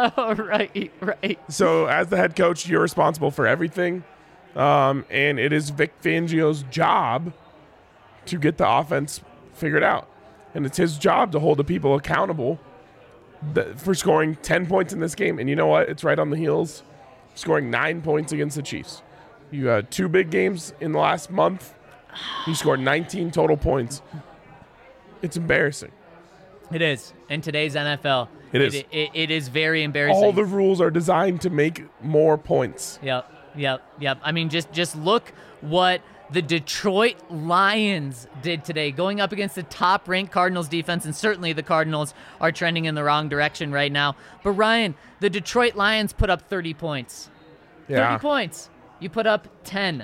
right, right. So as the head coach, you're responsible for everything. Um, and it is Vic Fangio's job to get the offense figured out. And it's his job to hold the people accountable th- for scoring ten points in this game. And you know what? It's right on the heels, scoring nine points against the Chiefs. You had two big games in the last month. You scored nineteen total points. It's embarrassing. It is. In today's N F L. It is. It, it, it is very embarrassing. All the rules are designed to make more points. Yep, yep, yep. I mean, just just look what the Detroit Lions did today, going up against the top-ranked Cardinals defense, and certainly the Cardinals are trending in the wrong direction right now. But Ryan, the Detroit Lions put up thirty points. Yeah. thirty points. You put up ten.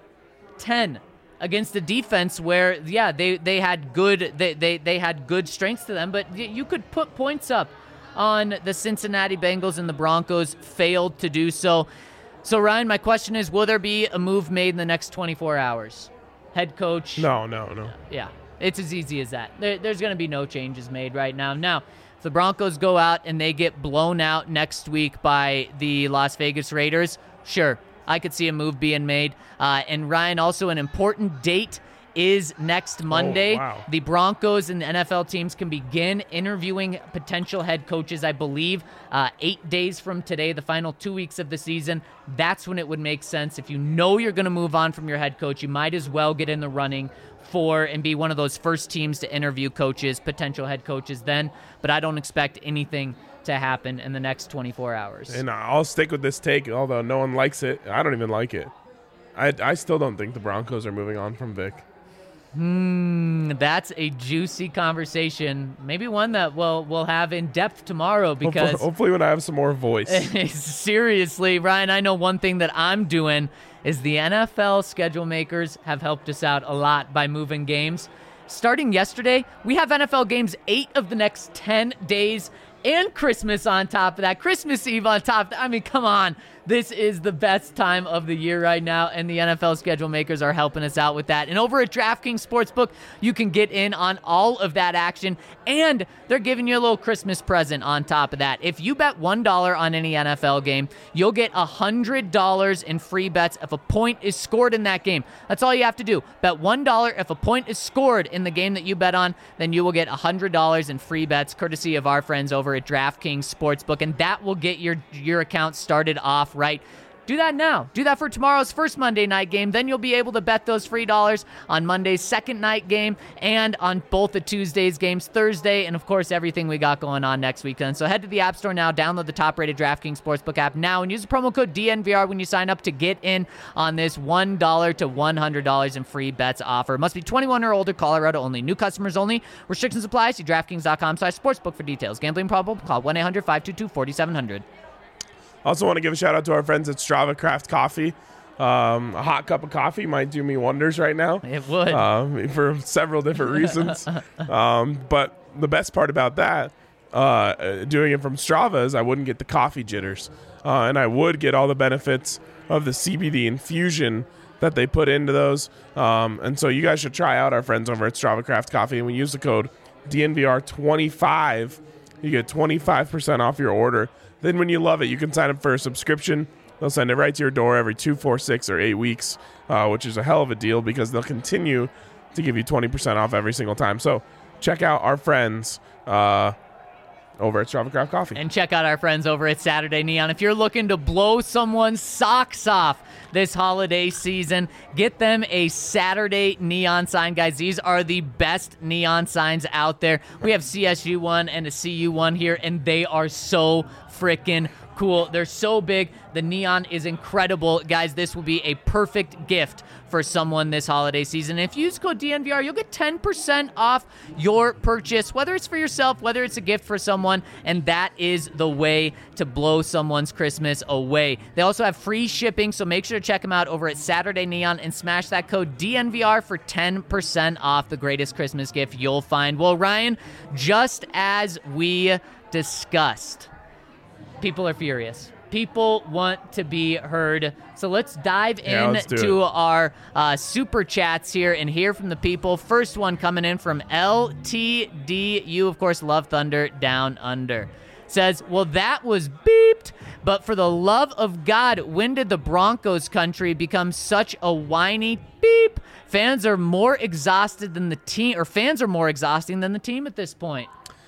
ten against a defense where, yeah, they, they had good they, they, they had good strengths to them, but y- you could put points up on the Cincinnati Bengals, and the Broncos failed to do so. So, Ryan, my question is, will there be a move made in the next twenty-four hours? Head coach? No, no, no. Yeah, it's as easy as that. There, there's going to be no changes made right now. Now, if the Broncos go out and they get blown out next week by the Las Vegas Raiders, sure, I could see a move being made. Uh, and, Ryan, also an important date is next Monday. Oh, wow. The Broncos and the N F L teams can begin interviewing potential head coaches, I believe, uh, eight days from today, the final two weeks of the season. That's when it would make sense. If you know you're going to move on from your head coach, you might as well get in the running for and be one of those first teams to interview coaches, potential head coaches then. But I don't expect anything to happen in the next twenty-four hours. And I'll stick with this take, although no one likes it. I don't even like it. I, I still don't think the Broncos are moving on from Vic. Hmm, that's a juicy conversation. Maybe one that we'll we'll have in depth tomorrow because Hopefully, hopefully when I have some more voice. seriously, Ryan, I know one thing that I'm doing is the N F L schedule makers have helped us out a lot by moving games. Starting yesterday, we have N F L games eight of the next ten days and Christmas on top of that. Christmas Eve on top of that. I mean, come on. This is the best time of the year right now, and the N F L schedule makers are helping us out with that. And over at DraftKings Sportsbook, you can get in on all of that action, and they're giving you a little Christmas present on top of that. If you bet one dollar on any N F L game, you'll get one hundred dollars in free bets if a point is scored in that game. That's all you have to do. Bet one dollar. If a point is scored in the game that you bet on, then you will get one hundred dollars in free bets, courtesy of our friends over at DraftKings Sportsbook, and that will get your, your account started off right. Do that now. Do that for tomorrow's first Monday night game. Then you'll be able to bet those free dollars on Monday's second night game and on both the Tuesday's games, Thursday, and of course everything we got going on next weekend. So head to the App Store now, download the top-rated DraftKings Sportsbook app now, and use the promo code D N V R when you sign up to get in on this one dollar to one hundred dollars in free bets offer. Must be twenty-one or older, Colorado only. New customers only. Restrictions apply. See DraftKings.com slash sportsbook for details. Gambling problem? Call one eight hundred five two two four seven zero zero. Also want to give a shout out to our friends at Strava Craft Coffee. Um, a hot cup of coffee might do me wonders right now. It would. Um, for several different reasons. um, but the best part about that, uh, doing it from Strava, is I wouldn't get the coffee jitters. uh, and I would get all the benefits of the C B D infusion that they put into those. Um, and so you guys should try out our friends over at Strava Craft Coffee. And when you use the code D N V R twenty-five, you get twenty-five percent off your order. Then when you love it, you can sign up for a subscription. They'll send it right to your door every two, four, six, or eight weeks, uh, which is a hell of a deal because they'll continue to give you twenty percent off every single time. So check out our friends uh, over at Strava Craft Coffee. And check out our friends over at Saturday Neon. If you're looking to blow someone's socks off this holiday season, get them a Saturday Neon sign. Guys, these are the best neon signs out there. We have C S U one and a C U one here, and they are so freaking cool. They're so big. The neon is incredible. Guys, this will be a perfect gift for someone this holiday season. If you use code D N V R, you'll get ten percent off your purchase, whether it's for yourself, whether it's a gift for someone, and that is the way to blow someone's Christmas away. They also have free shipping, so make sure to check them out over at Saturday Neon and smash that code D N V R for ten percent off the greatest Christmas gift you'll find. Well, Ryan, just as we discussed, people are furious. People want to be heard. So let's dive Yeah, let's do into it. our uh, super chats here and hear from the people. First one coming in from L T D. You, of course, love Thunder Down Under. Says, well, that was beeped, but for the love of God, when did the Broncos country become such a whiny beep? Fans are more exhausted than the team, or fans are more exhausting than the team at this point.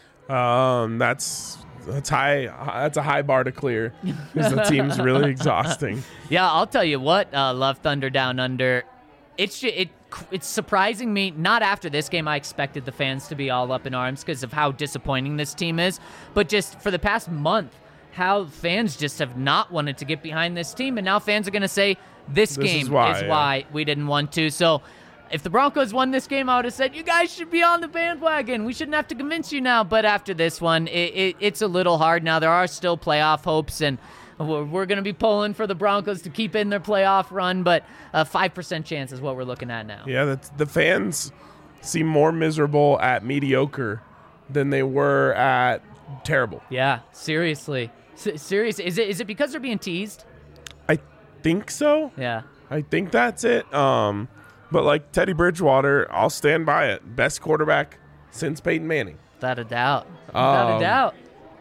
Um, that's that's high. That's a high bar to clear because the team's really exhausting. Yeah, I'll tell you what, uh, Love Thunder Down Under. It's ju- it it's surprising me. Not after this game, I expected the fans to be all up in arms because of how disappointing this team is. But just for the past month, how fans just have not wanted to get behind this team, and now fans are going to say this, This game is why, is yeah. why we didn't want to. So if the Broncos won this game, I would have said, you guys should be on the bandwagon. We shouldn't have to convince you now. But after this one, it, it, it's a little hard now. There are still playoff hopes, and we're, we're going to be pulling for the Broncos to keep in their playoff run. But a five percent chance is what we're looking at now. Yeah, that's, the fans seem more miserable at mediocre than they were at terrible. Yeah, seriously. S- serious. Is it is it because they're being teased? I think so. Yeah. I think that's it. Um, but like Teddy Bridgewater, I'll stand by it. Best quarterback since Peyton Manning. Without a doubt. Without Um, a doubt.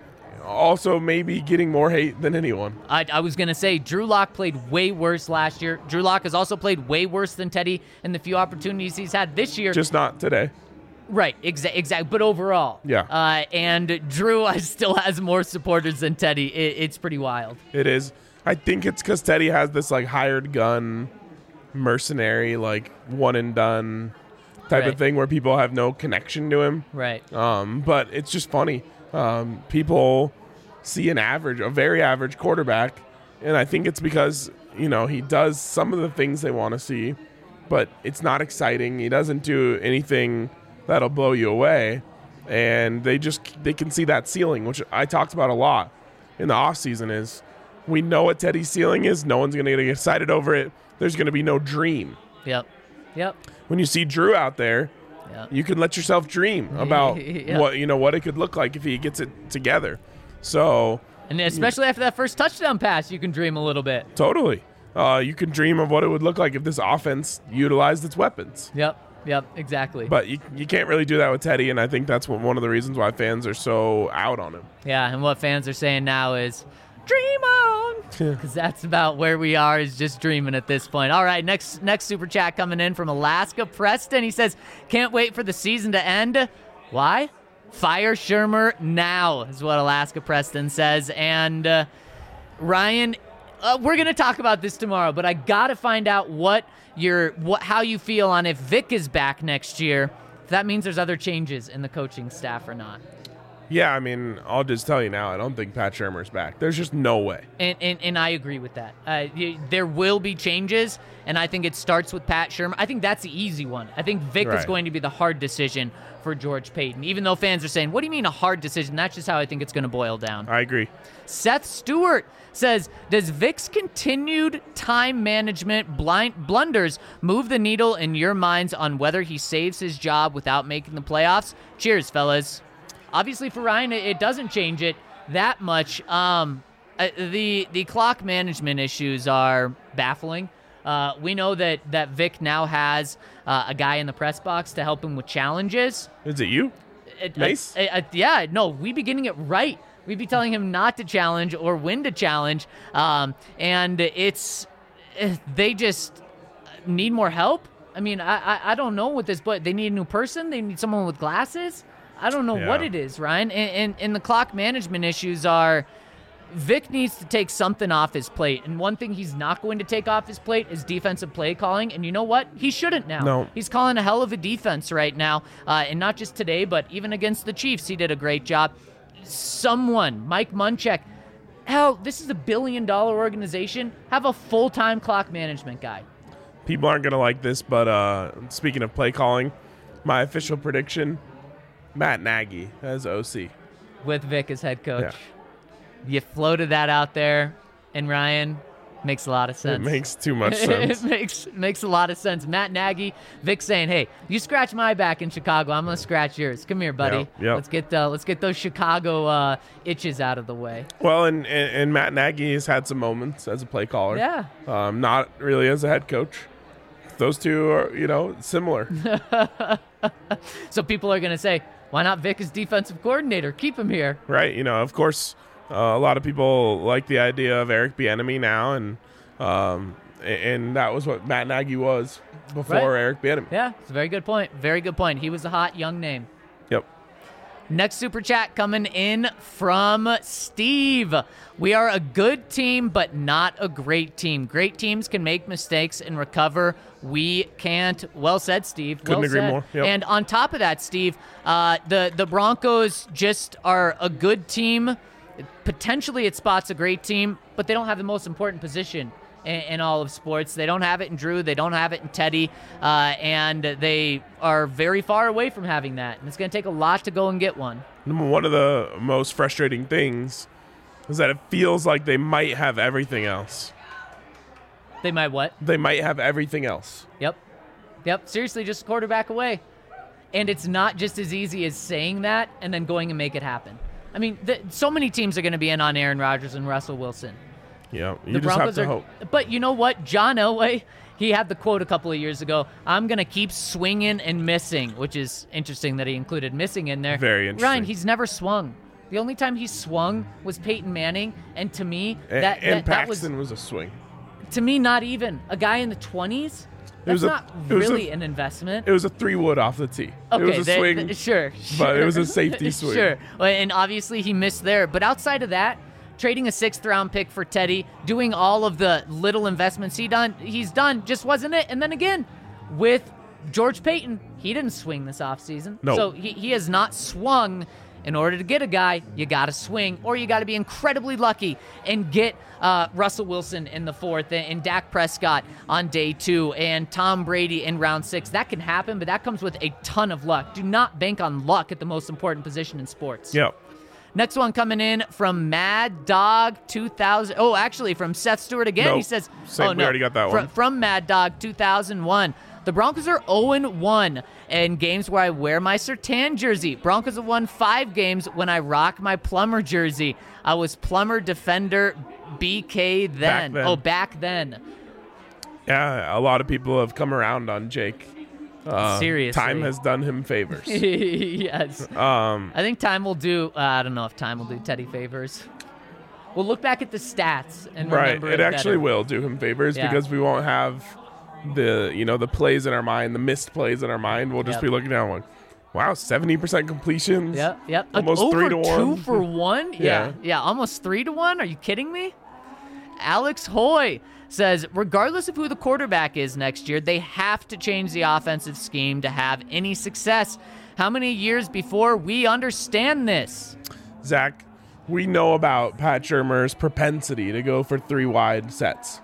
Also, maybe getting more hate than anyone. I, I was going to say, Drew Lock played way worse last year. Drew Lock has also played way worse than Teddy in the few opportunities he's had this year. Just not today. Right, exactly, exact, but overall. Yeah. Uh, and Drew still has more supporters than Teddy. It, it's pretty wild. It is. I think it's because Teddy has this like hired gun, mercenary, like one and done type Right. of thing where people have no connection to him. Right. Um, but it's just funny. Um, people see an average, a very average quarterback, and I think it's because, you know, he does some of the things they want to see, but it's not exciting. He doesn't do anything that'll blow you away, and they just they can see that ceiling, which I talked about a lot in the offseason, is we know what Teddy's ceiling is. No one's going to get excited over it. There's going to be no dream. Yep. Yep. When you see Drew out there, Yep. you can let yourself dream about Yeah. what you know what it could look like if he gets it together. So And especially after that first touchdown pass, you can dream a little bit. totally, uh, you can dream of what it would look like if this offense utilized its weapons. Yep. Yep. Exactly. But you you can't really do that with Teddy, and I think that's one one of the reasons why fans are so out on him. Yeah, and what fans are saying now is, dream on, because that's about where we are, is just dreaming at this point. All right, next next super chat coming in from Alaska Preston. He says, can't wait for the season to end. Why? Fire Shermer now, is what Alaska Preston says. And uh, Ryan, uh, we're going to talk about this tomorrow, but I got to find out what your what how you feel on if Vic is back next year. If that means there's other changes in the coaching staff or not. Yeah, I mean, I'll just tell you now, I don't think Pat Shermer's back. There's just no way. And, and and I agree with that. Uh, y- there will be changes, and I think it starts with Pat Shermer. I think that's the easy one. I think Vic is Right. going to be the hard decision for George Payton, even though fans are saying, what do you mean a hard decision? That's just how I think it's going to boil down. I agree. Seth Stewart says, does Vic's continued time management blind blunders move the needle in your minds on whether he saves his job without making the playoffs? Cheers, fellas. Obviously, for Ryan, it, it doesn't change it that much. Um, Uh, the the clock management issues are baffling. Uh, we know that, that Vic now has uh, a guy in the press box to help him with challenges. Is it you? It, Mace? uh, uh, yeah, no, we be getting it right. We'd be telling him not to challenge or when to challenge. Um, and it's, uh, they just need more help. I mean, I, I, I don't know what this, but they need a new person. They need someone with glasses. I don't know Yeah. what it is, Ryan. And, and, and the clock management issues are, Vic needs to take something off his plate. And one thing he's not going to take off his plate is defensive play calling. And you know what? He shouldn't now. No. He's calling a hell of a defense right now. Uh, and not just today, but even against the Chiefs, he did a great job. Someone, Mike Munchak, hell, this is a billion dollar organization. Have a full-time clock management guy. People aren't going to like this, but uh, speaking of play calling, my official prediction, Matt Nagy as O C. With Vic as head coach. Yeah. You floated that out there, and Ryan, makes a lot of sense. It makes too much sense. It makes makes a lot of sense. Matt Nagy, Vic saying, "Hey, you scratch my back in Chicago, I'm gonna scratch yours. Come here, buddy. Yep, yep. Let's get uh, let's get those Chicago uh, itches out of the way." Well, and, and, and Matt Nagy has had some moments as a play caller. Yeah. Um, not really as a head coach. Those two are, you know, similar. So people are gonna say, "Why not Vic as defensive coordinator? Keep him here." Right. You know, of course, uh, a lot of people like the idea of Eric Bieniemy now, and um, and that was what Matt Nagy was before Right. Eric Bieniemy. Yeah, it's a very good point. Very good point. He was a hot young name. Yep. Next super chat coming in from Steve. We are a good team, but not a great team. Great teams can make mistakes and recover. We can't. Well said, Steve. Couldn't well agree said. more. Yep. And on top of that, Steve, uh, the, the Broncos just are a good team. Potentially at spots a great team, but they don't have the most important position in, in all of sports. They don't have it in Drew. They don't have it in Teddy. Uh, and they are very far away from having that. And it's going to take a lot to go and get one. One of the most frustrating things is that it feels like they might have everything else. They might what? They might have everything else. Yep. Yep. Seriously, just a quarterback away. And it's not just as easy as saying that and then going and make it happen. I mean, the, so many teams are going to be in on Aaron Rodgers and Russell Wilson. Yeah, you The just Broncos have to are, hope. But you know what? John Elway, he had the quote a couple of years ago, "I'm going to keep swinging and missing," which is interesting that he included missing in there. Very interesting. Ryan, he's never swung. The only time he swung was Peyton Manning, and to me, And, that, and that, that was, Paxton was, a swing. to me, not even. A guy in the twenties? That's was a- not it was a- really an investment. It was a three wood off the tee. Okay, it was a they- swing. th- sure, but it was a sure. safety swing. Sure, Well, and obviously he missed there. But outside of that, trading a sixth round pick for Teddy, doing all of the little investments he done, he's done, just wasn't it. And then again, with George Payton, he didn't swing this offseason. No. So he, he has not swung. In order to get a guy, you got to swing, or you got to be incredibly lucky and get uh, Russell Wilson in the fourth and Dak Prescott on day two and Tom Brady in round six. That can happen, but that comes with a ton of luck. Do not bank on luck at the most important position in sports. Yep. Next one coming in from Mad Dog two thousand. Oh, actually from Seth Stewart again. Nope. He says, Same, oh, we no. already got that Fr- one. From Mad Dog two thousand one. The Broncos are oh and one in games where I wear my Surtain jersey. Broncos have won five games when I rock my Plummer jersey. I was Plummer defender B K then. Back then. Oh, back then. Yeah, a lot of people have come around on Jake. Uh, Seriously. Time has done him favors. Yes. um, I think time will do, uh, I don't know if time will do Teddy favors. We'll look back at the stats and right. remember It it actually better. will do him favors Yeah. because we won't have the, you know, the plays in our mind, the missed plays in our mind. We'll just Yep. be looking down like, wow, seventy percent completions. Yep, yep. Almost Over three to two one. for one? Yeah. yeah, yeah, almost three to one. Are you kidding me? Alex Hoy says, regardless of who the quarterback is next year, they have to change the offensive scheme to have any success. How many years before we understand this? Zach, we know about Pat Shurmur's propensity to go for three wide sets.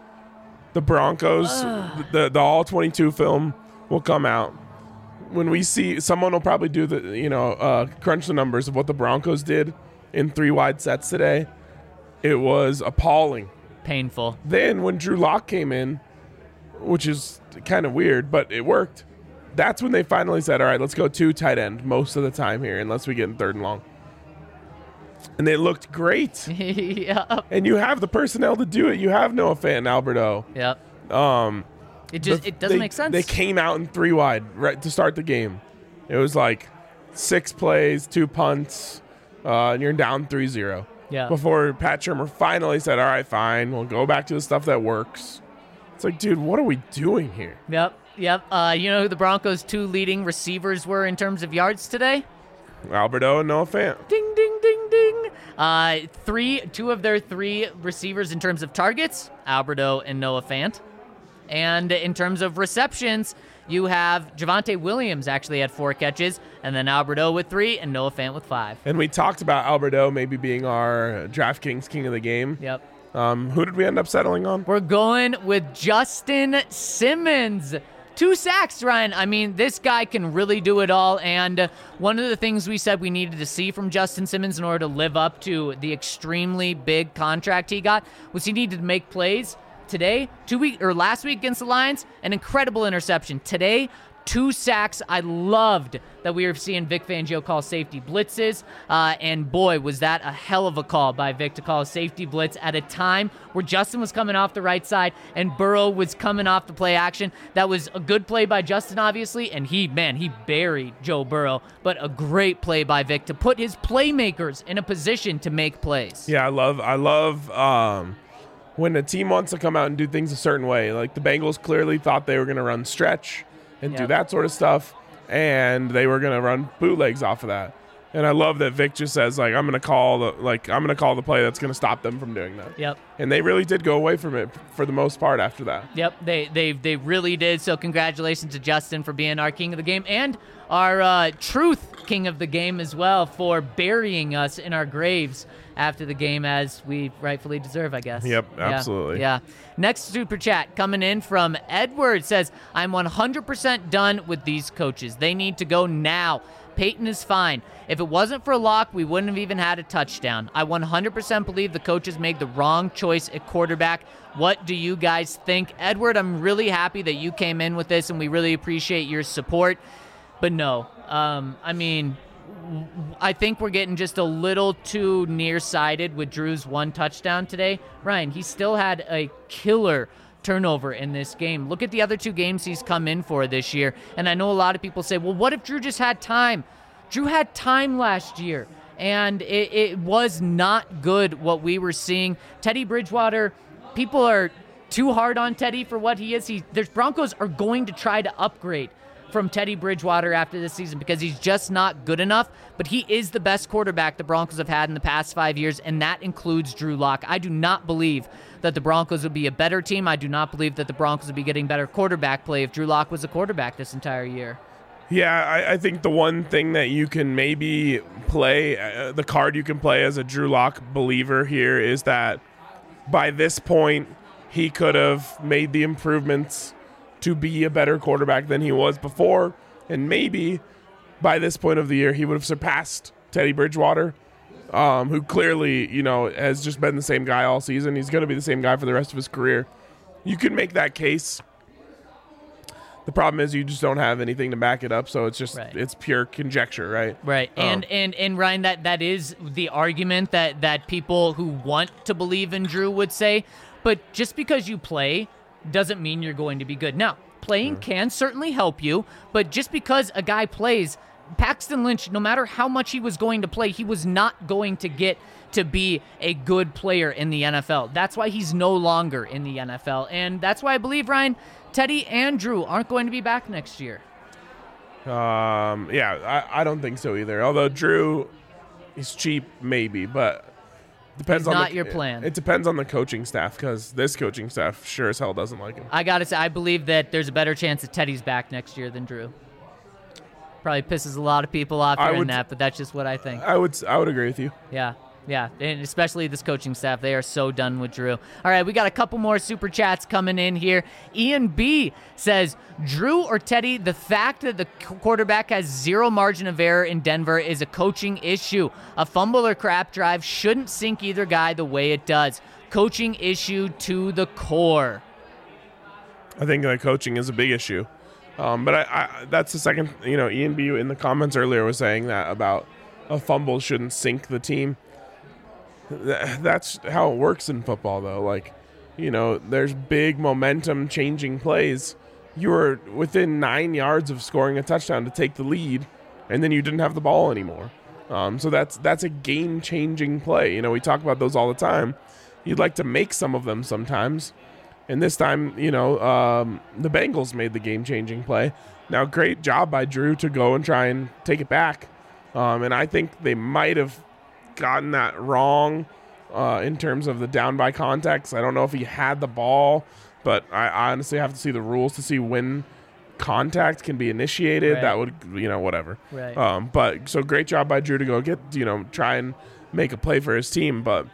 The Broncos, the the all twenty-two film will come out. When we see, someone will probably do the, you know, uh, crunch the numbers of what the Broncos did in three wide sets today. It was appalling. Painful. Then when Drew Lock came in, which is kind of weird, but it worked. That's when they finally said, all right, let's go two tight end most of the time here, unless we get in third and long. and they looked great. Yep. And you have the personnel to do it. You have Noah Fant and Alberto. Yep. Um, It just the- it doesn't they- make sense. They came out in three wide right to start the game. It was like six plays, two punts, uh, and you're down three zero. Yeah. Before Pat Shermer finally said, all right, fine, we'll go back to the stuff that works. It's like, dude, what are we doing here? Yep. Yep. Uh, you know who the Broncos' two leading receivers were in terms of yards today? Alberto and Noah Fant. Ding, ding, ding, ding. Uh, three, two of their three receivers in terms of targets, Alberto and Noah Fant. And in terms of receptions, you have Javonte Williams actually had four catches, and then Alberto with three, and Noah Fant with five. And we talked about Alberto maybe being our DraftKings king of the game. Yep. Um, who did we end up settling on? We're going with Justin Simmons. Two sacks, Ryan. I mean, this guy can really do it all. And uh, one of the things we said we needed to see from Justin Simmons in order to live up to the extremely big contract he got was he needed to make plays. Today, two week or last week against the Lions, an incredible interception. Today, two sacks. I loved that we were seeing Vic Fangio call safety blitzes, uh, and boy, was that a hell of a call by Vic to call a safety blitz at a time where Justin was coming off the right side and Burrow was coming off the play action. That was a good play by Justin, obviously, and he, man, he buried Joe Burrow, but a great play by Vic to put his playmakers in a position to make plays. Yeah, I love, I love um, when a team wants to come out and do things a certain way. Like the Bengals clearly thought they were going to run stretch and Yep. do that sort of stuff, and they were going to run bootlegs off of that. And I love that Vic just says, like, I'm going to call the like I'm going to call the play that's going to stop them from doing that. Yep. And they really did go away from it for the most part after that. Yep, they they they really did. So congratulations to Justin for being our king of the game and our uh, truth king of the game as well for burying us in our graves after the game as we rightfully deserve, I guess. Yep, Yeah, absolutely. Yeah. Next super chat coming in from Edward says, I'm one hundred percent done with these coaches. They need to go now. Peyton is fine. If it wasn't for Locke, we wouldn't have even had a touchdown. I one hundred percent believe the coaches made the wrong choice at quarterback. What do you guys think? Edward, I'm really happy that you came in with this, and we really appreciate your support. But no, um, I mean, I think we're getting just a little too nearsighted with Drew's one touchdown today. Ryan, he still had a killer turnover in this game. Look at the other two games he's come in for this year. And I know a lot of people say, well, what if Drew just had time? Drew had time last year, and it, it was not good what we were seeing. Teddy Bridgewater, people are too hard on Teddy for what he is. He, the Broncos are going to try to upgrade from Teddy Bridgewater after this season because he's just not good enough, but he is the best quarterback the Broncos have had in the past five years, and that includes Drew Lock. I do not believe that the Broncos would be a better team. I do not believe that the Broncos would be getting better quarterback play if Drew Lock was a quarterback this entire year. Yeah, I, I think the one thing that you can maybe play, uh, the card you can play as a Drew Lock believer here is that by this point, he could have made the improvements to be a better quarterback than he was before. And maybe by this point of the year, he would have surpassed Teddy Bridgewater, um, who clearly, you know, has just been the same guy all season. He's going to be the same guy for the rest of his career. You can make that case. The problem is you just don't have anything to back it up, so it's just Right. it's pure conjecture, right? Right. Um, And, and and Ryan, that, that is the argument that, that people who want to believe in Drew would say. But just because you play doesn't mean you're going to be good. Now, playing can certainly help you, but just because a guy plays, Paxton Lynch, no matter how much he was going to play, he was not going to get to be a good player in the N F L. That's why he's no longer in the N F L. And that's why I believe, Ryan, Teddy and Drew aren't going to be back next year. Um, yeah, I, I don't think so either. Although Drew, he's cheap, maybe, but depends He's on not the, your plan. It depends on the coaching staff because this coaching staff sure as hell doesn't like him. I got to say, I believe that there's a better chance that Teddy's back next year than Drew. Probably pisses a lot of people off I hearing would- that, but that's just what I think. I would I would agree with you. Yeah, yeah, and especially this coaching staff. They are so done with Drew. All right, we got a couple more super chats coming in here. Ian B says, Drew or Teddy, the fact that the quarterback has zero margin of error in Denver is a coaching issue. A fumble or crap drive shouldn't sink either guy the way it does. Coaching issue to the core. I think the coaching is a big issue. Um, but I, I, that's the second, you know, Ian B in the comments earlier was saying that about a fumble shouldn't sink the team. th- that's how it works in football, though. Like, you know, there's big momentum changing plays. You were within nine yards of scoring a touchdown to take the lead, and then you didn't have the ball anymore. Um, so that's that's a game changing play. You know, we talk about those all the time. You'd like to make some of them sometimes. And this time, you know, um, the Bengals made the game-changing play. Now, great job by Drew to go and try and take it back. Um, and I think they might have gotten that wrong uh, in terms of the down by context. I don't know if he had the ball, but I, I honestly have to see the rules to see when contact can be initiated. Right. That would, you know, whatever. Right. Um, but so great job by Drew to go get, you know, try and make a play for his team. But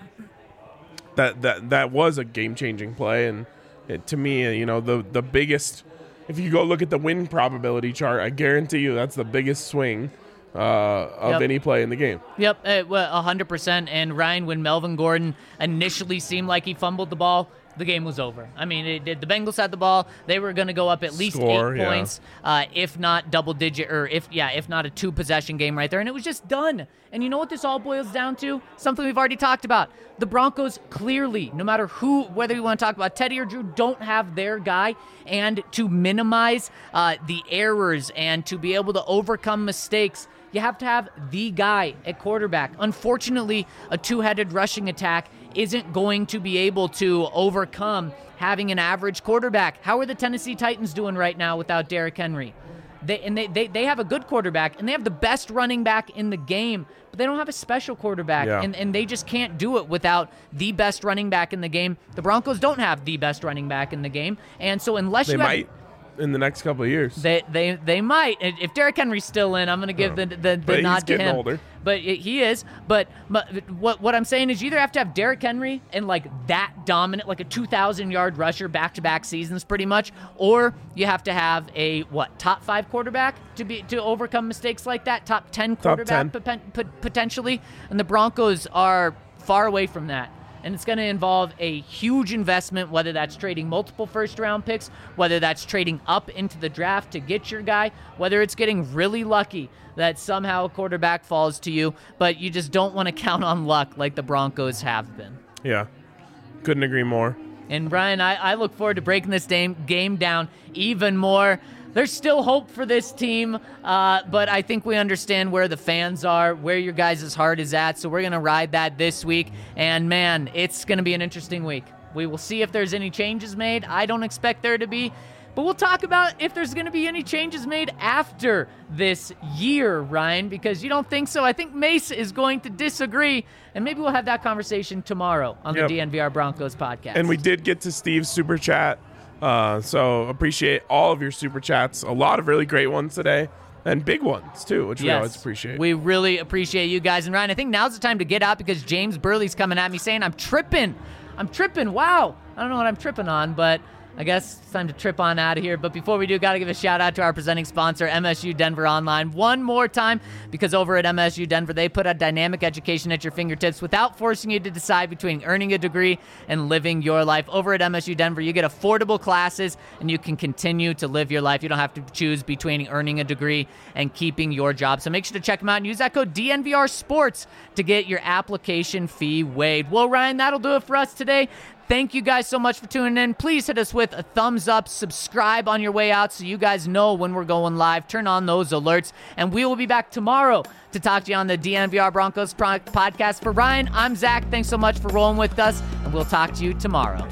that that that was a game-changing play, and it, to me, you know, the the biggest. If you go look at the win probability chart, I guarantee you that's the biggest swing uh, of Yep. any play in the game. Yep, uh, well, one hundred percent. And Ryan, when Melvin Gordon initially seemed like he fumbled the ball, the game was over. I mean, it did. The Bengals had the ball. They were going to go up at least Score, eight yeah. points, uh, if not double digit, or if yeah, if not a two possession game right there, and it was just done. And you know what this all boils down to? Something we've already talked about. The Broncos clearly, no matter who, whether you want to talk about Teddy or Drew, don't have their guy. And to minimize uh, the errors and to be able to overcome mistakes, you have to have the guy at quarterback. Unfortunately, a two-headed rushing attack isn't going to be able to overcome having an average quarterback. How are the Tennessee Titans doing right now without Derrick Henry? They, and they, they, they have a good quarterback, and they have the best running back in the game, but they don't have a special quarterback, Yeah. and, and they just can't do it without the best running back in the game. The Broncos don't have the best running back in the game, and so unless They you might have... in the next couple of years. They they they might. If Derrick Henry's still in, I'm going to give the the, the But he's nod to getting him. older. But it, he is. But, but what what I'm saying is, you either have to have Derrick Henry and like that dominant, like a two thousand yard rusher back to back seasons, pretty much, or you have to have a what top five quarterback to be to overcome mistakes like that. Top ten quarterback ten. poten- pot- potentially, and the Broncos are far away from that. And it's going to involve a huge investment, whether that's trading multiple first-round picks, whether that's trading up into the draft to get your guy, whether it's getting really lucky that somehow a quarterback falls to you, but you just don't want to count on luck like the Broncos have been. Yeah, couldn't agree more. And, Brian, I, I look forward to breaking this game, game down even more. There's still hope for this team, uh, but I think we understand where the fans are, where your guys' heart is at, so we're going to ride that this week. And, man, it's going to be an interesting week. We will see if there's any changes made. I don't expect there to be, but we'll talk about if there's going to be any changes made after this year, Ryan, because you don't think so. I think Mace is going to disagree, and maybe we'll have that conversation tomorrow on Yep. the D N V R Broncos podcast. And we did get to Steve's super chat. Uh, so appreciate all of your super chats. A lot of really great ones today, and big ones too, which we Yes, always appreciate. We really appreciate you guys. And Ryan, I think now's the time to get out because James Burley's coming at me saying I'm tripping. I'm tripping. Wow. I don't know what I'm tripping on, but I guess it's time to trip on out of here. But before we do, got to give a shout out to our presenting sponsor, M S U Denver Online, one more time, because over at M S U Denver, they put a dynamic education at your fingertips without forcing you to decide between earning a degree and living your life. Over at M S U Denver, you get affordable classes and you can continue to live your life. You don't have to choose between earning a degree and keeping your job. So make sure to check them out and use that code D N V R Sports to get your application fee waived. Well, Ryan, that'll do it for us today. Thank you guys so much for tuning in. Please hit us with a thumbs up, subscribe on your way out so you guys know when we're going live. Turn on those alerts, and we will be back tomorrow to talk to you on the D N V R Broncos pro- podcast. For Ryan, I'm Zach. Thanks so much for rolling with us, and we'll talk to you tomorrow.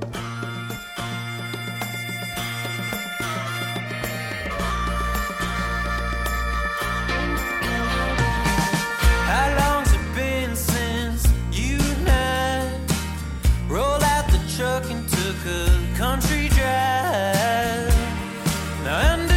How long's it been since you and I rolled out the truck and took a country drive? Now I